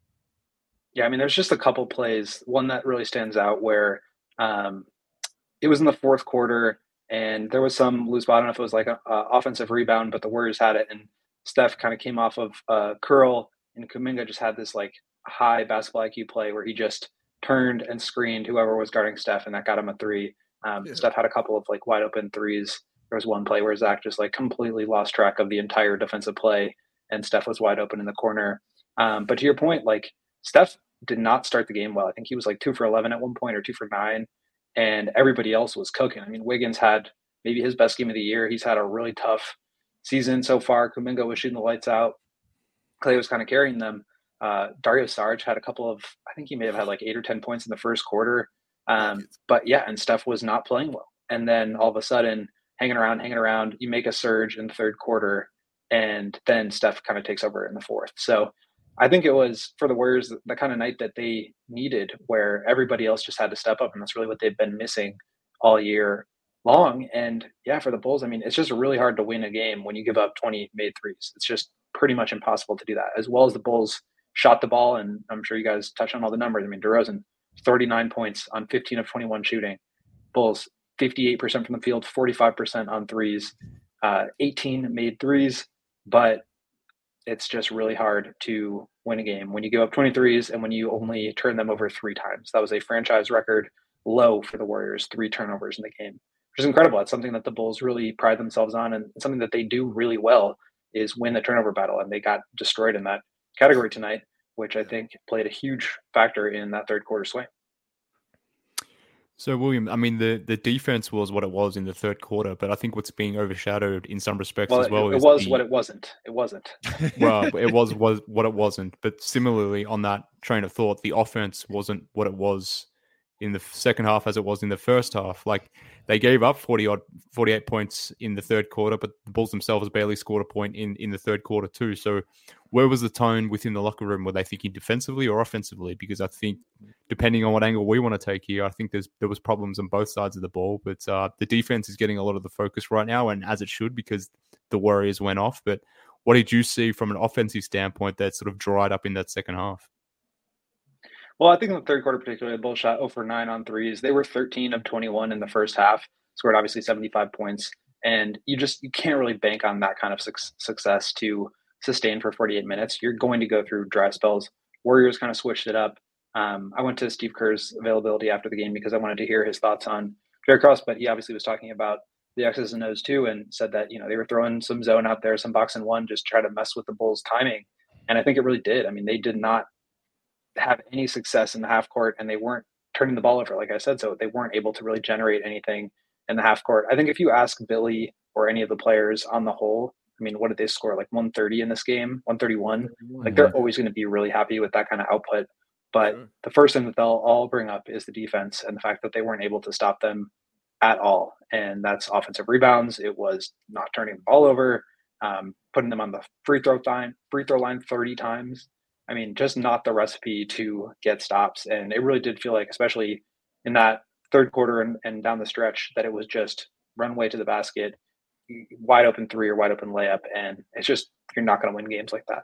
Yeah, I mean, there's just a couple plays. One that really stands out where um, it was in the fourth quarter, and there was some loose ball. I don't know if it was like an offensive rebound, but the Warriors had it, and Steph kind of came off of a curl, and Kuminga just had this like high basketball I Q play where he just turned and screened whoever was guarding Steph, and that got him a three. Um, yeah. Steph had a couple of like wide open threes. There was one play where Zach just like completely lost track of the entire defensive play, and Steph was wide open in the corner. Um, but to your point, like Steph did not start the game well. I think he was like two for eleven at one point or two for nine, and everybody else was cooking. I mean, Wiggins had maybe his best game of the year. He's had a really tough season so far. Kuminga was shooting the lights out. Clay was kind of carrying them. Uh, Dario Saric had a couple of, I think he may have had like eight or ten points in the first quarter. Um, but yeah, and Steph was not playing well. And then all of a sudden, hanging around, hanging around, you make a surge in the third quarter, and then Steph kind of takes over in the fourth. So I think it was for the Warriors the, the kind of night that they needed, where everybody else just had to step up, and that's really what they've been missing all year long. And yeah, for the Bulls, I mean, it's just really hard to win a game when you give up twenty made threes. It's just pretty much impossible to do that. As well as the Bulls shot the ball, and I'm sure you guys touched on all the numbers. I mean, DeRozan, thirty-nine points on fifteen of twenty-one shooting. Bulls, fifty-eight percent from the field, forty-five percent on threes, uh, eighteen made threes, but it's just really hard to win a game when you give up twenty-threes and when you only turn them over three times. That was a franchise record low for the Warriors, three turnovers in the game, which is incredible. It's something that the Bulls really pride themselves on, and something that they do really well is win the turnover battle, and they got destroyed in that category tonight, which I think played a huge factor in that third quarter swing. So, William, I mean, the, the defense was what it was in the third quarter, but I think what's being overshadowed in some respects well, as well it, is it was the, what it wasn't. It wasn't. Well, it was, was what it wasn't. But similarly, on that train of thought, the offense wasn't what it was in the second half as it was in the first half. Like, they gave up forty odd, forty-eight points in the third quarter, but the Bulls themselves barely scored a point in, in the third quarter too. So where was the tone within the locker room? Were they thinking defensively or offensively? Because I think, depending on what angle we want to take here, I think there's there was problems on both sides of the ball. But uh, the defense is getting a lot of the focus right now, and as it should, because the Warriors went off. But what did you see from an offensive standpoint that sort of dried up in that second half? Well, I think in the third quarter particularly, the Bulls shot zero for nine on threes. They were thirteen of twenty-one in the first half, scored obviously seventy-five points. And you just you can't really bank on that kind of su- success to sustain for forty-eight minutes. You're going to go through dry spells. Warriors kind of switched it up. Um, I went to Steve Kerr's availability after the game because I wanted to hear his thoughts on Derrick Rose, but he obviously was talking about the X's and O's too, and said that, you know, they were throwing some zone out there, some box and one, just try to mess with the Bulls' timing. And I think it really did. I mean, they did not have any success in the half court, and they weren't turning the ball over, like I said, so they weren't able to really generate anything in the half court. I think if you ask Billy or any of the players on the whole, I mean, what did they score? Like one thirty in this game, one thirty-one. Like they're always going to be really happy with that kind of output. But sure. The first thing that they'll all bring up is the defense and the fact that they weren't able to stop them at all. And that's offensive rebounds. It was not turning the ball over, um, putting them on the free throw line, free throw line thirty times. I mean, just not the recipe to get stops. And it really did feel like, especially in that third quarter and, and down the stretch, that it was just runway to the basket, wide open three or wide open layup. And it's just, you're not going to win games like that.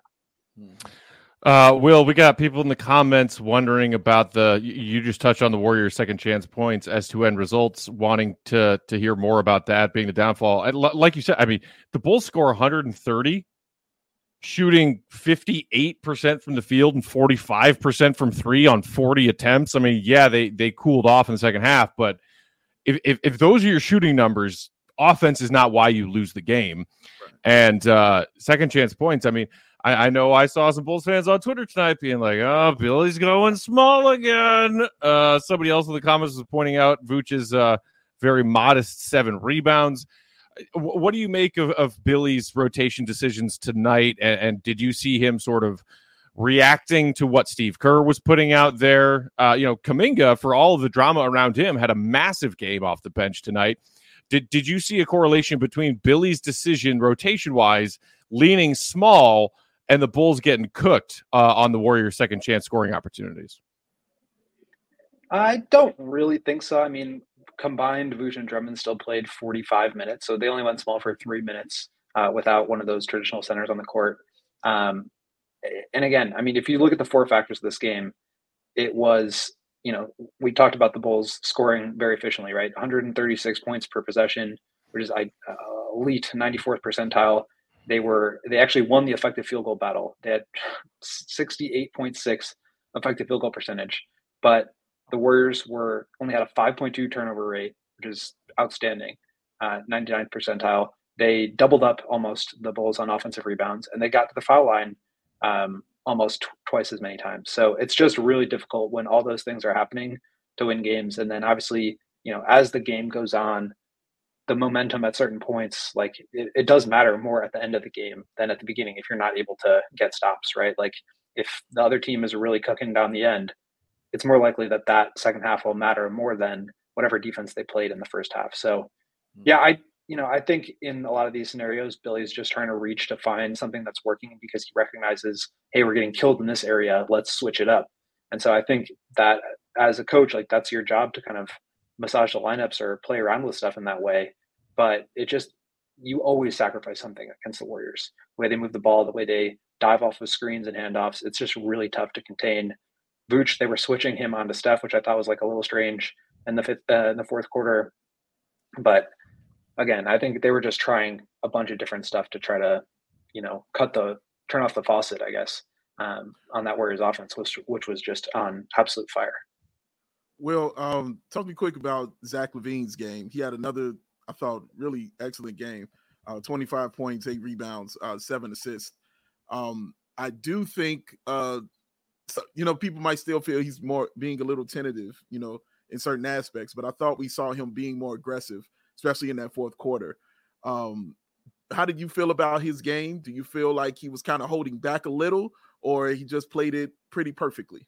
Uh, Will, we got people in the comments wondering about the, you just touched on the Warriors' second chance points as to end results, wanting to to hear more about that being the downfall. I, like you said, I mean, the Bulls score one hundred thirty, shooting fifty-eight percent from the field and forty-five percent from three on forty attempts. I mean, yeah, they they cooled off in the second half, but if if, if those are your shooting numbers, offense is not why you lose the game. Right. And uh, second chance points, I mean, I, I know I saw some Bulls fans on Twitter tonight being like, oh, Billy's going small again. Uh, somebody else in the comments was pointing out Vooch's uh, very modest seven rebounds. What do you make of, of Billy's rotation decisions tonight? And, and did you see him sort of reacting to what Steve Kerr was putting out there? Uh, you know, Kuminga, for all of the drama around him, had a massive game off the bench tonight. Did did you see a correlation between Billy's decision rotation-wise leaning small and the Bulls getting cooked uh, on the Warriors' second chance scoring opportunities? I don't really think so. I mean, combined, Vooch and Drummond still played forty-five minutes, so they only went small for three minutes uh, without one of those traditional centers on the court. Um, and again, I mean, if you look at the four factors of this game, it was, you know, we talked about the Bulls scoring very efficiently, right? one hundred thirty-six points per possession, which is uh, elite ninety-fourth percentile. They were, they actually won the effective field goal battle. They had sixty-eight point six effective field goal percentage, but the Warriors were only had a five point two turnover rate, which is outstanding, uh, ninety-ninth percentile. They doubled up almost the Bulls on offensive rebounds, and they got to the foul line um, almost t- twice as many times. So it's just really difficult when all those things are happening to win games. And then obviously, you know, as the game goes on, the momentum at certain points, like it, it does matter more at the end of the game than at the beginning if you're not able to get stops, right? Like if the other team is really cooking down the end, it's more likely that that second half will matter more than whatever defense they played in the first half. So yeah, I, you know, I think in a lot of these scenarios, Billy's just trying to reach to find something that's working because he recognizes, hey, we're getting killed in this area. Let's switch it up. And so I think that as a coach, like that's your job to kind of massage the lineups or play around with stuff in that way. But it just, you always sacrifice something against the Warriors. The way they move the ball, the way they dive off of screens and handoffs, it's just really tough to contain. Vooch, they were switching him onto Steph, which I thought was like a little strange in the fifth, uh, in the fourth quarter. But again, I think they were just trying a bunch of different stuff to try to, you know, cut the, turn off the faucet, I guess, um, on that Warriors offense, which, which was just on absolute fire. Well, um, talk to me quick about Zach LaVine's game. He had another, I thought, really excellent game. Uh, twenty-five points, eight rebounds, uh, seven assists. Um, I do think, uh, so, you know, people might still feel he's more being a little tentative, you know, in certain aspects, but I thought we saw him being more aggressive, especially in that fourth quarter. Um, how did you feel about his game? Do you feel like he was kind of holding back a little, or he just played it pretty perfectly?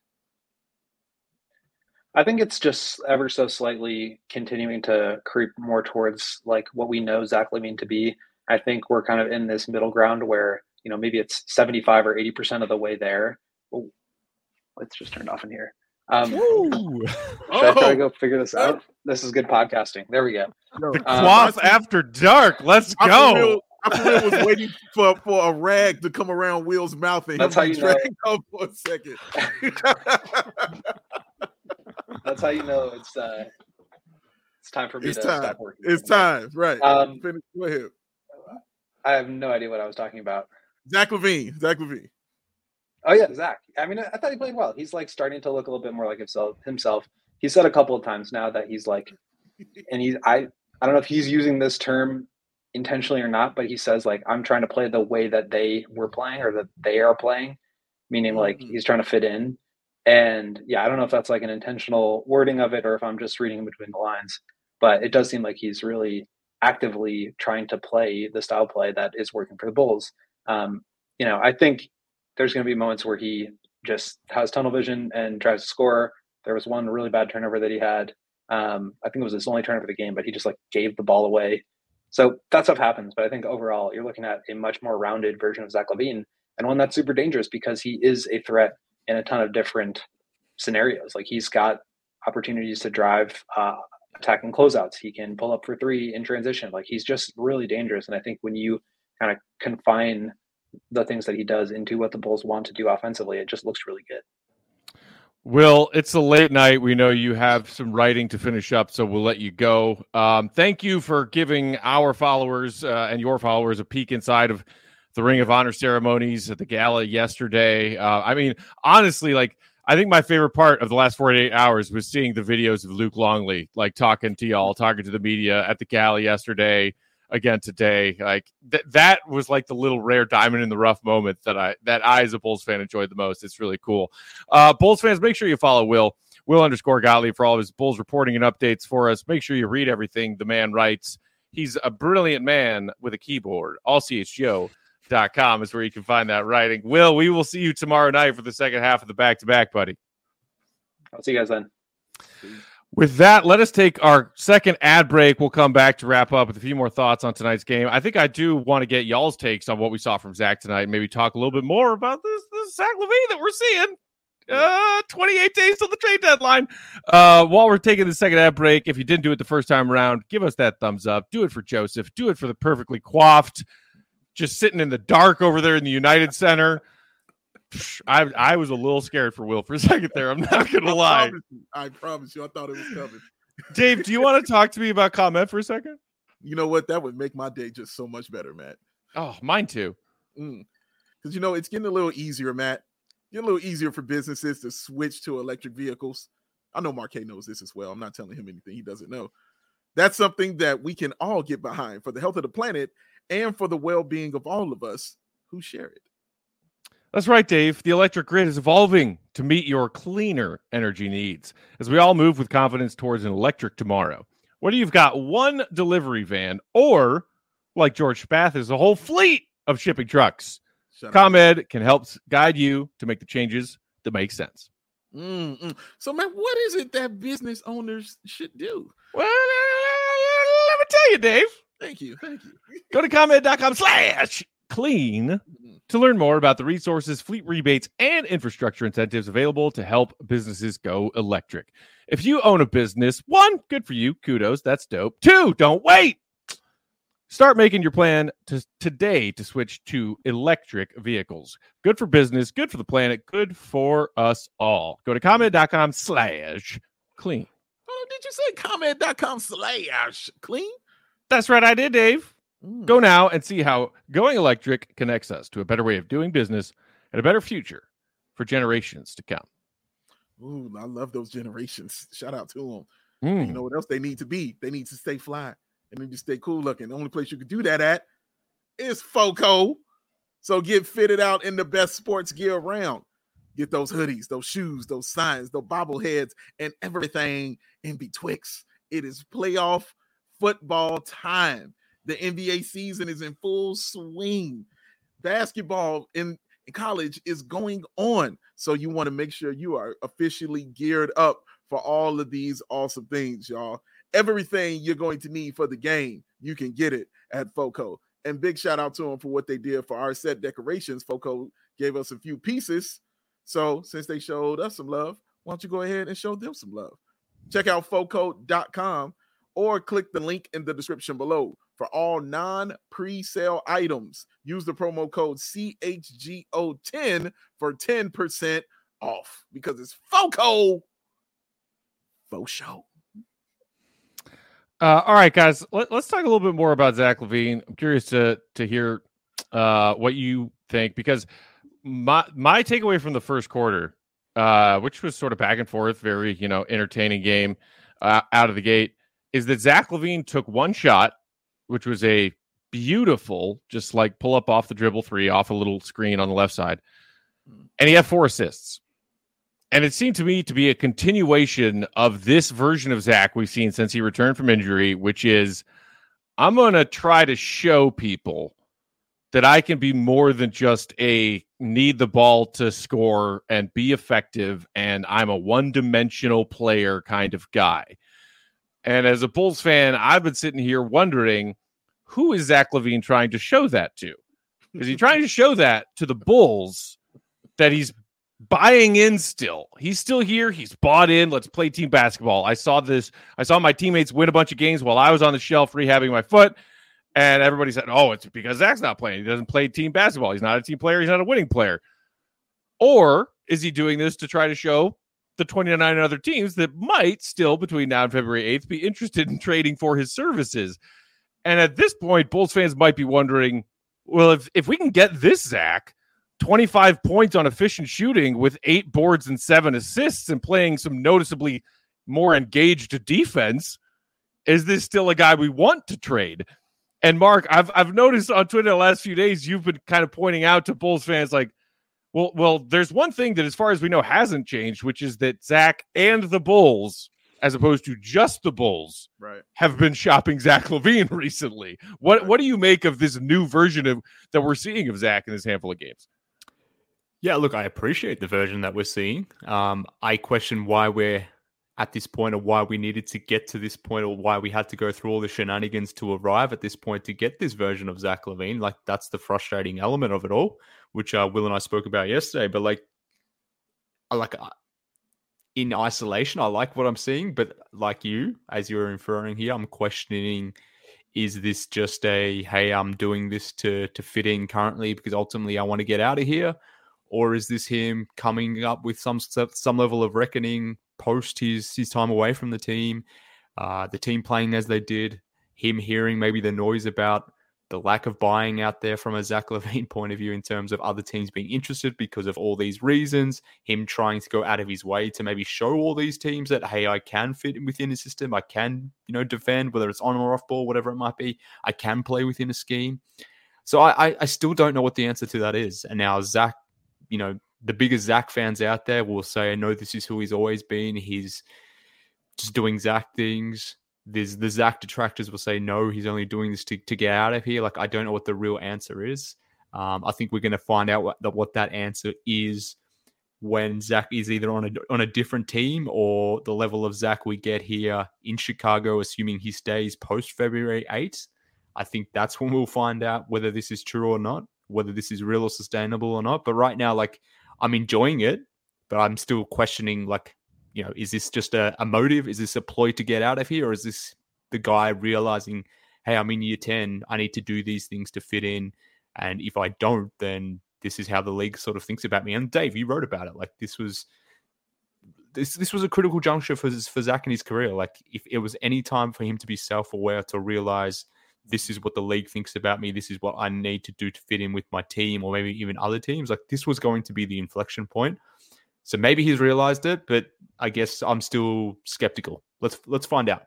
I think it's just ever so slightly continuing to creep more towards like what we know Zach LaVine to be. I think we're kind of in this middle ground where, you know, maybe it's seventy-five or eighty percent of the way there. Oh, let's just turn it off in here. Um, should I try to go figure this out? This is good podcasting. There we go. The Quaff um, after dark. Let's go. I was waiting for, for a rag to come around Will's mouth and that's how you know. Go for a second. That's how you know it's uh, it's time for me It's to time. stop working. It's time. Right. Um, Finish. Go ahead. I have no idea what I was talking about. Zach LaVine. Zach LaVine. Oh yeah, Zach. I mean, I, I thought he played well. He's like starting to look a little bit more like himself. Himself. He said a couple of times now that he's like, and he's I I don't know if he's using this term intentionally or not, but he says like I'm trying to play the way that they were playing or that they are playing, meaning like Mhm. he's trying to fit in. And yeah, I don't know if that's like an intentional wording of it or if I'm just reading in between the lines, but it does seem like he's really actively trying to play the style play that is working for the Bulls. Um, you know, I think there's going to be moments where he just has tunnel vision and tries to score. There was one really bad turnover that he had. Um, I think it was his only turnover of the game, but he just like gave the ball away. So that stuff happens. But I think overall, you're looking at a much more rounded version of Zach LaVine, and one that's super dangerous because he is a threat in a ton of different scenarios. Like he's got opportunities to drive uh, attacking closeouts. He can pull up for three in transition. Like he's just really dangerous. And I think when you kind of confine the things that he does into what the Bulls want to do offensively, it just looks really good. Will, it's a late night. We know you have some writing to finish up, so we'll let you go. Um, thank you for giving our followers uh, and your followers a peek inside of the Ring of Honor ceremonies at the gala yesterday. Uh, I mean, honestly, like, I think my favorite part of the last forty-eight hours was seeing the videos of Luke Longley, like talking to y'all, talking to the media at the gala yesterday, again today. Like th- that was like the little rare diamond in the rough moment that I that I as a Bulls fan enjoyed the most. It's really cool. Uh, Bulls fans, make sure you follow Will, Will underscore Gottlieb for all of his Bulls reporting and updates for us. Make sure you read everything the man writes. He's a brilliant man with a keyboard. all c h g o dot com is where you can find that writing. Will, we will see you tomorrow night for the second half of the back-to-back, buddy. I'll see you guys then. With that, let us take our second ad break. We'll come back to wrap up with a few more thoughts on tonight's game. I think I do want to get y'all's takes on what we saw from Zach tonight. Maybe talk a little bit more about this, this Zach LaVine that we're seeing. Uh, twenty-eight days till the trade deadline. Uh, while we're taking the second ad break, if you didn't do it the first time around, give us that thumbs up. Do it for Joseph. Do it for the perfectly coiffed, just sitting in the dark over there in the United Center. I I was a little scared for Will for a second there. I'm not going to lie. Promise you, I promise you. I thought it was coming. Dave, do you want to talk to me about comment for a second? You know what? That would make my day just so much better, Matt. Oh, mine too. Because, mm. you know, it's getting a little easier, Matt. Getting a little easier for businesses to switch to electric vehicles. I know Marquet knows this as well. I'm not telling him anything he doesn't know. That's something that we can all get behind for the health of the planet and for the well-being of all of us who share it. That's right, Dave. The electric grid is evolving to meet your cleaner energy needs as we all move with confidence towards an electric tomorrow. Whether you've got one delivery van or, like George Spath, is a whole fleet of shipping trucks, Shut ComEd up. Can help guide you to make the changes that make sense. Mm-mm. So, man, what is it that business owners should do? Well, let me tell you, Dave. Thank you. Thank you. Go to ComEd.com slash clean to learn more about the resources, fleet rebates, and infrastructure incentives available to help businesses go electric. If you own a business, one, good for you. Kudos. That's dope. Two, don't wait. Start making your plan to today to switch to electric vehicles. Good for business, good for the planet, good for us all. Go to ComEd.com slash clean. Oh, did you say ComEd.com slash clean? That's right, I did, Dave. Mm. Go now and see how going electric connects us to a better way of doing business and a better future for generations to come. Ooh, I love those generations. Shout out to them. Mm. You know what else they need to be? They need to stay fly and then just stay cool looking. The only place you can do that at is FOCO. So get fitted out in the best sports gear around. Get those hoodies, those shoes, those signs, those bobbleheads, and everything in betwixt. It is playoff football time. The N B A season is in full swing. Basketball in, in college is going on. So you want to make sure you are officially geared up for all of these awesome things, y'all. Everything you're going to need for the game, you can get it at FOCO. And big shout out to them for what they did for our set decorations. FOCO gave us a few pieces. So since they showed us some love, why don't you go ahead and show them some love? Check out foco dot com or click the link in the description below. For all non-pre-sale items, use the promo code C H G O ten for ten percent off because it's FOCO. Faux show. Uh, all right, guys, let, let's talk a little bit more about Zach LaVine. I'm curious to to hear uh, what you think, because my my takeaway from the first quarter, uh, which was sort of back and forth, very you know entertaining game uh, out of the gate, is that Zach LaVine took one shot, which was a beautiful, just like pull up off the dribble three off a little screen on the left side, and he had four assists. And it seemed to me to be a continuation of this version of Zach we've seen since he returned from injury, which is, I'm going to try to show people that I can be more than just a need the ball to score and be effective, and I'm a one-dimensional player kind of guy. And as a Bulls fan, I've been sitting here wondering, who is Zach LaVine trying to show that to? Is he trying to show that to the Bulls, that he's buying in still? He's still here. He's bought in. Let's play team basketball. I saw this. I saw my teammates win a bunch of games while I was on the shelf rehabbing my foot. And everybody said, oh, it's because Zach's not playing. He doesn't play team basketball. He's not a team player. He's not a winning player. Or is he doing this to try to show the twenty-nine other teams that might still, between now and February eighth, be interested in trading for his services? And at this point, Bulls fans might be wondering, well, if, if we can get this Zach, twenty-five points on efficient shooting with eight boards and seven assists and playing some noticeably more engaged defense, is this still a guy we want to trade? And Mark, I've I've noticed on Twitter the last few days, you've been kind of pointing out to Bulls fans like, well, well, there's one thing that, as far as we know, hasn't changed, which is that Zach and the Bulls, as opposed to just the Bulls, right, have been shopping Zach LaVine recently. What right. what do you make of this new version of that we're seeing of Zach in this handful of games? Yeah, look, I appreciate the version that we're seeing. Um, I question why we're at this point, or why we needed to get to this point, or why we had to go through all the shenanigans to arrive at this point to get this version of Zach LaVine. Like, that's the frustrating element of it all, which uh, Will and I spoke about yesterday. But like, I like uh, in isolation, I like what I'm seeing. But like you, as you're inferring here, I'm questioning: is this just a, hey, I'm doing this to to fit in currently because ultimately I want to get out of here? Or is this him coming up with some some level of reckoning post his, his time away from the team, uh, the team playing as they did, him hearing maybe the noise about the lack of buying out there from a Zach LaVine point of view in terms of other teams being interested because of all these reasons, him trying to go out of his way to maybe show all these teams that, hey, I can fit within a system, I can, you know, defend, whether it's on or off ball, whatever it might be, I can play within a scheme. So I, I, I still don't know what the answer to that is. And now Zach, you know, the biggest Zach fans out there will say, no, this is who he's always been. He's just doing Zach things. There's the Zach detractors will say, no, he's only doing this to, to get out of here. Like, I don't know what the real answer is. Um, I think we're going to find out what, what that answer is when Zach is either on a, on a different team, or the level of Zach we get here in Chicago, assuming he stays post February eighth. I think that's when we'll find out whether this is true or not, whether this is real or sustainable or not. But right now, like, I'm enjoying it, but I'm still questioning, like, you know, is this just a, a motive? Is this a ploy to get out of here? Or is this the guy realizing, hey, I'm in year ten, I need to do these things to fit in. And if I don't, then this is how the league sort of thinks about me. And Dave, you wrote about it. Like, this was this this was a critical juncture for, for Zach in his career. Like, if it was any time for him to be self-aware, to realize this is what the league thinks about me, this is what I need to do to fit in with my team, or maybe even other teams, like, this was going to be the inflection point. So maybe he's realized it, but I guess I'm still skeptical. Let's let's find out.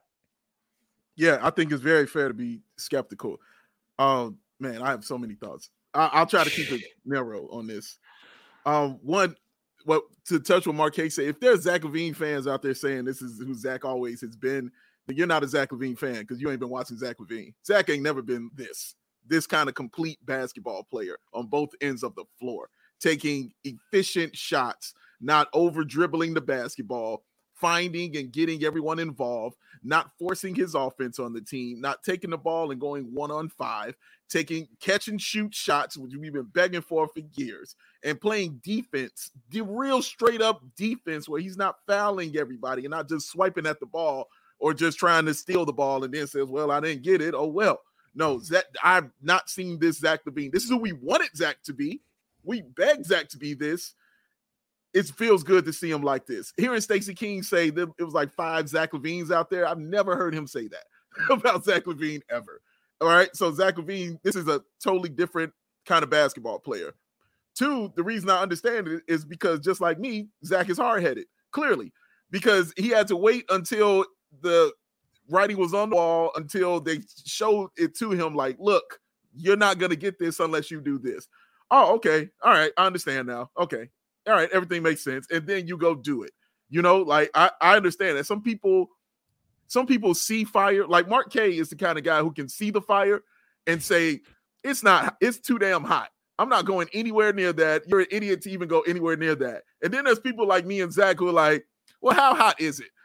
Yeah, I think it's very fair to be skeptical. Um, man, I have so many thoughts. I, I'll try to keep it narrow on this. Um, one, well, to touch what Mark K said, if there's Zach LaVine fans out there saying this is who Zach always has been, then you're not a Zach LaVine fan because you ain't been watching Zach LaVine. Zach ain't never been this, this kind of complete basketball player on both ends of the floor, taking efficient shots, not over dribbling the basketball, finding and getting everyone involved, not forcing his offense on the team, not taking the ball and going one on five, taking catch and shoot shots, which we've been begging for for years, and playing defense, the real straight up defense where he's not fouling everybody and not just swiping at the ball or just trying to steal the ball and then says, well, I didn't get it. Oh, well. No, Zach, I've not seen this Zach LaVine. This is who we wanted Zach to be. We begged Zach to be this. It feels good to see him like this. Hearing Stacey King say that it was like five Zach LaVines out there, I've never heard him say that. about Zach LaVine ever. All right. So Zach LaVine, this is a totally different kind of basketball player. Two, the reason I understand it is because just like me, Zach is hard-headed, clearly, because he had to wait until the writing was on the wall, until they showed it to him like, look, you're not going to get this unless you do this. Oh, okay. All right. I understand now. Okay. All right. Everything makes sense. And then you go do it. You know, like I, I understand that some people, some people see fire. Like Mark K is the kind of guy who can see the fire and say, it's not, it's too damn hot. I'm not going anywhere near that. You're an idiot to even go anywhere near that. And then there's people like me and Zach who are like, well, how hot is it?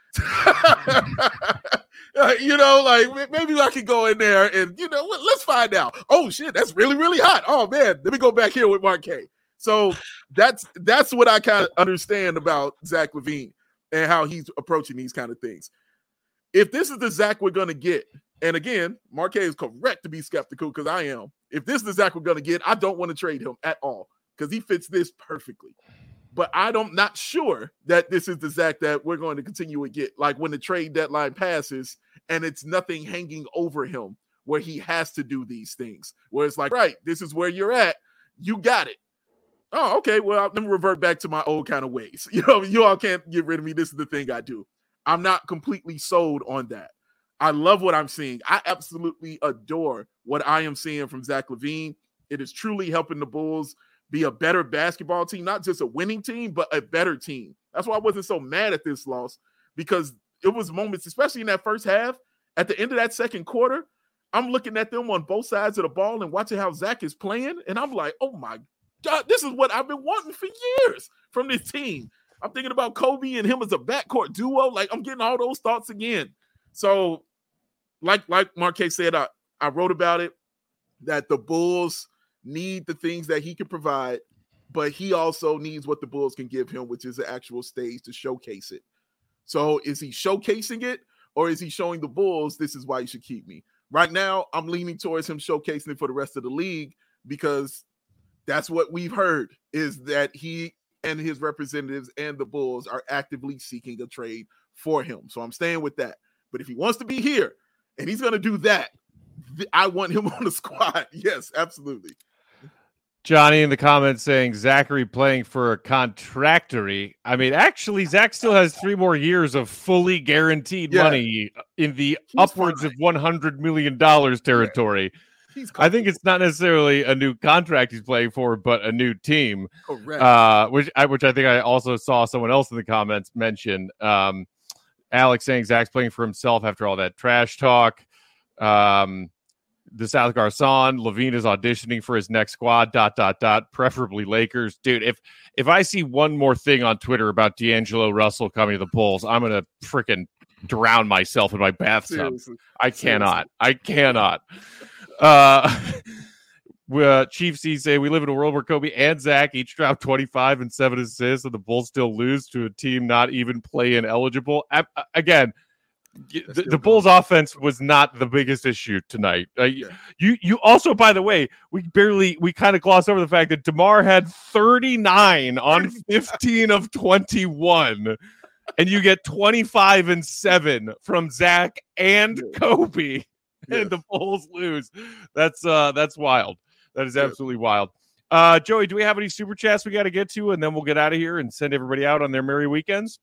You know, like maybe I could go in there and, you know, let's find out. Oh, shit, that's really, really hot. Oh, man, let me go back here with Mark K. So that's that's what I kind of understand about Zach LaVine and how he's approaching these kind of things. If this is the Zach we're going to get, and again, Mark K is correct to be skeptical because I am. If this is the Zach we're going to get, I don't want to trade him at all because he fits this perfectly. But I don't not sure that this is the Zach that we're going to continue to get. Like when the trade deadline passes and it's nothing hanging over him where he has to do these things. Where it's like, right, this is where you're at. You got it. Oh, okay. Well, let me revert back to my old kind of ways. You know, you all can't get rid of me. This is the thing I do. I'm not completely sold on that. I love what I'm seeing. I absolutely adore what I am seeing from Zach LaVine. It is truly helping the Bulls be a better basketball team, not just a winning team, but a better team. That's why I wasn't so mad at this loss, because it was moments, especially in that first half, at the end of that second quarter, I'm looking at them on both sides of the ball and watching how Zach is playing, and I'm like, oh my God, this is what I've been wanting for years from this team. I'm thinking about Kobe and him as a backcourt duo. Like, I'm getting all those thoughts again. So, like, like Marquez said, I, I wrote about it, that the Bulls need the things that he can provide, but he also needs what the Bulls can give him, which is an actual stage to showcase it. So is he showcasing it, or is he showing the Bulls, this is why you should keep me? Right now, I'm leaning towards him showcasing it for the rest of the league, because that's what we've heard, is that he and his representatives and the Bulls are actively seeking a trade for him. So I'm staying with that. But if he wants to be here and he's going to do that, th- I want him on the squad. Yes, absolutely. Johnny in the comments saying Zachary playing for a contractory. I mean, actually, Zach still has three more years of fully guaranteed yeah. money in the He's upwards fine. of one hundred million dollars territory. Yeah. I think it's not necessarily a new contract he's playing for, but a new team. Correct. Uh, which I, which I think I also saw someone else in the comments mention. Um, Alex saying Zach's playing for himself after all that trash talk. Um, the South Garcon, LaVine is auditioning for his next squad, dot, dot, dot, preferably Lakers. Dude, if if I see one more thing on Twitter about D'Angelo Russell coming to the Bulls, I'm going to freaking drown myself in my bathtub. Seriously. I cannot. Seriously. I cannot. Uh, uh, Chief C say, we live in a world where Kobe and Zach each drop twenty-five and seven assists, and the Bulls still lose to a team not even play-in eligible. I, again, The, the Bulls offense was not the biggest issue tonight. Uh, yeah. You you also, by the way, we barely, we kind of glossed over the fact that DeMar had thirty-nine on fifteen of twenty-one, and you get twenty-five and seven from Zach and yeah. Kobe, yeah. and the Bulls lose. That's uh that's wild. That is absolutely yeah. wild. Uh, Joey, do we have any super chats we got to get to, and then we'll get out of here and send everybody out on their merry weekends?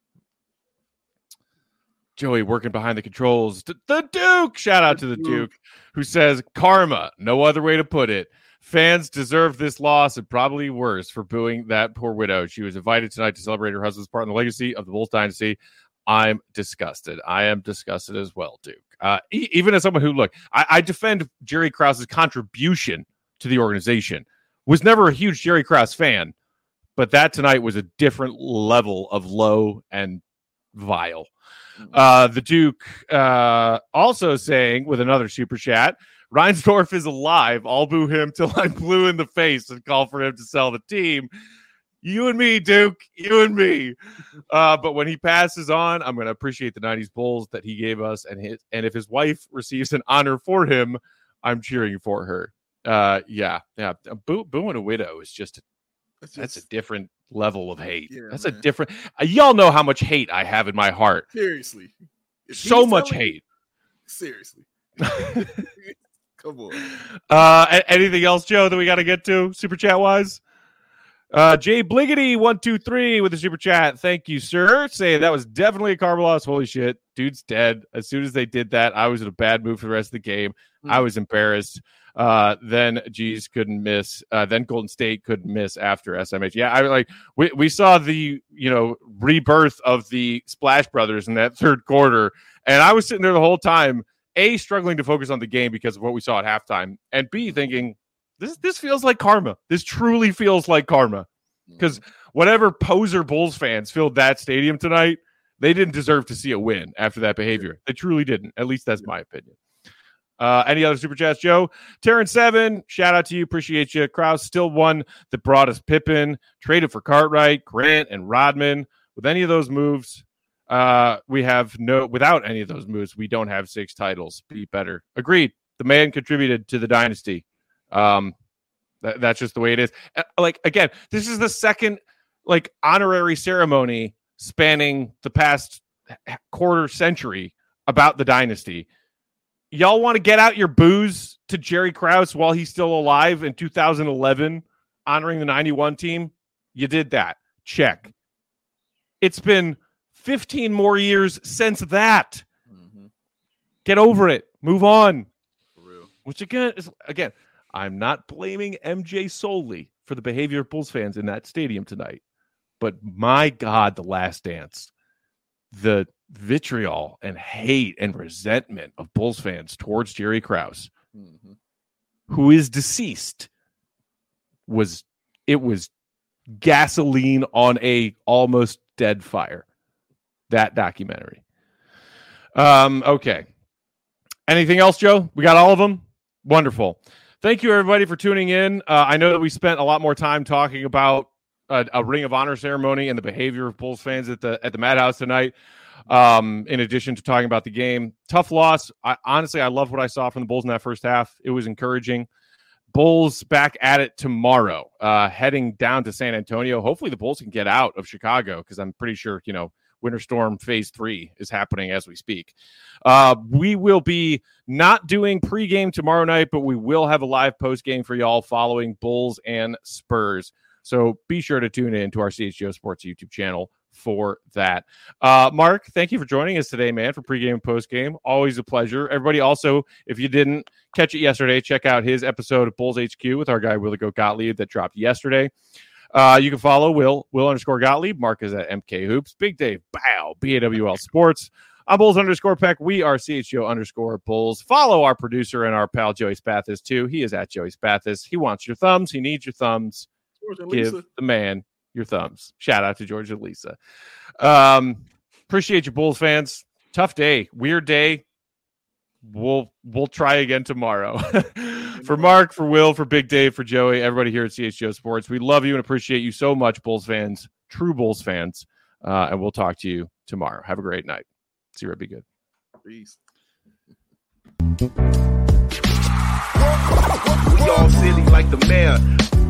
Joey working behind the controls. The Duke! Shout out to the Duke, who says, karma, no other way to put it. Fans deserve this loss and probably worse for booing that poor widow. She was invited tonight to celebrate her husband's part in the legacy of the Bulls dynasty. I'm disgusted. I am disgusted as well, Duke. Uh, e- even as someone who, look, I, I defend Jerry Krause's contribution to the organization. Was never a huge Jerry Krause fan, but that tonight was a different level of low and vile. Uh, the Duke uh, also saying with another super chat, Reinsdorf is alive. I'll boo him till I'm blue in the face and call for him to sell the team. You and me, Duke. You and me. Uh, but when he passes on, I'm going to appreciate the nineties Bulls that he gave us. And his, and if his wife receives an honor for him, I'm cheering for her. Uh, yeah. Yeah. Boo, booing a widow is just, that's, just, that's a different level of hate. Yeah, That's man. a different. Uh, y'all know how much hate I have in my heart. Seriously, so much hate. Seriously. Come on. Uh, a- anything else, Joe, that we got to get to super chat wise? Uh, Jay Bliggity one two three with a super chat. Thank you, sir. Say that was definitely a karma loss. Holy shit, dude's dead. As soon as they did that, I was in a bad mood for the rest of the game. Mm-hmm. I was embarrassed. Uh, then G's couldn't miss. Uh, then Golden State couldn't miss after S M H. Yeah, I like we we saw the you know rebirth of the Splash Brothers in that third quarter, and I was sitting there the whole time, A, struggling to focus on the game because of what we saw at halftime, and B, thinking, This this feels like karma. This truly feels like karma. Because whatever poser Bulls fans filled that stadium tonight, they didn't deserve to see a win after that behavior. They truly didn't. At least that's my opinion. Uh, any other super chats, Joe? Terrence seven, shout out to you. Appreciate you. Krause still one that brought us Pippen, traded for Cartwright, Grant, and Rodman. With any of those moves, uh, we have no, without any of those moves, we don't have six titles. Be better. Agreed. The man contributed to the dynasty. Um, that, that's just the way it is. Uh, like, again, this is the second like honorary ceremony spanning the past quarter century about the dynasty. Y'all want to get out your boos to Jerry Krause while he's still alive in two thousand eleven, honoring the ninety-one team? You did that. Check. It's been fifteen more years since that. Mm-hmm. Get over it. Move on. For real. Which again is again. I'm not blaming M J solely for the behavior of Bulls fans in that stadium tonight, but my God, the Last Dance, the vitriol and hate and resentment of Bulls fans towards Jerry Krause, mm-hmm. who is deceased, was it was gasoline on a almost dead fire. That documentary. Um, okay. Anything else, Joe? We got all of them? Wonderful. Thank you, everybody, for tuning in. Uh, I know that we spent a lot more time talking about a, a Ring of Honor ceremony and the behavior of Bulls fans at the at the Madhouse tonight, um, in addition to talking about the game. Tough loss. I, honestly, I love what I saw from the Bulls in that first half. It was encouraging. Bulls back at it tomorrow, uh, heading down to San Antonio. Hopefully the Bulls can get out of Chicago because I'm pretty sure, you know, Winter Storm Phase three is happening as we speak. Uh, we will be not doing pregame tomorrow night, but we will have a live postgame for y'all following Bulls and Spurs. So be sure to tune in to our C H G O Sports YouTube channel for that. Uh, Mark, thank you for joining us today, man, for pregame and postgame. Always a pleasure. Everybody also, if you didn't catch it yesterday, check out his episode of Bulls H Q with our guy, Willie Goat Gottlieb, that dropped yesterday. Uh, you can follow Will, Will underscore Gottlieb. Mark is at M K Hoops. Big Dave, bow, B A W L Sports. I'm Bulls underscore Peck. We are C H G O underscore Bulls. Follow our producer and our pal, Joey Spathis, too. He is at Joey Spathis. He wants your thumbs. He needs your thumbs. Give the man your thumbs. Shout out to George and Lisa. Um, appreciate you, Bulls fans. Tough day. Weird day. We'll we'll try again tomorrow. For Mark, for Will, for Big Dave, for Joey, everybody here at C H G O Sports, we love you and appreciate you so much, Bulls fans, true Bulls fans, uh, and we'll talk to you tomorrow. Have a great night. See you. Be good. Peace. We all silly like the mayor.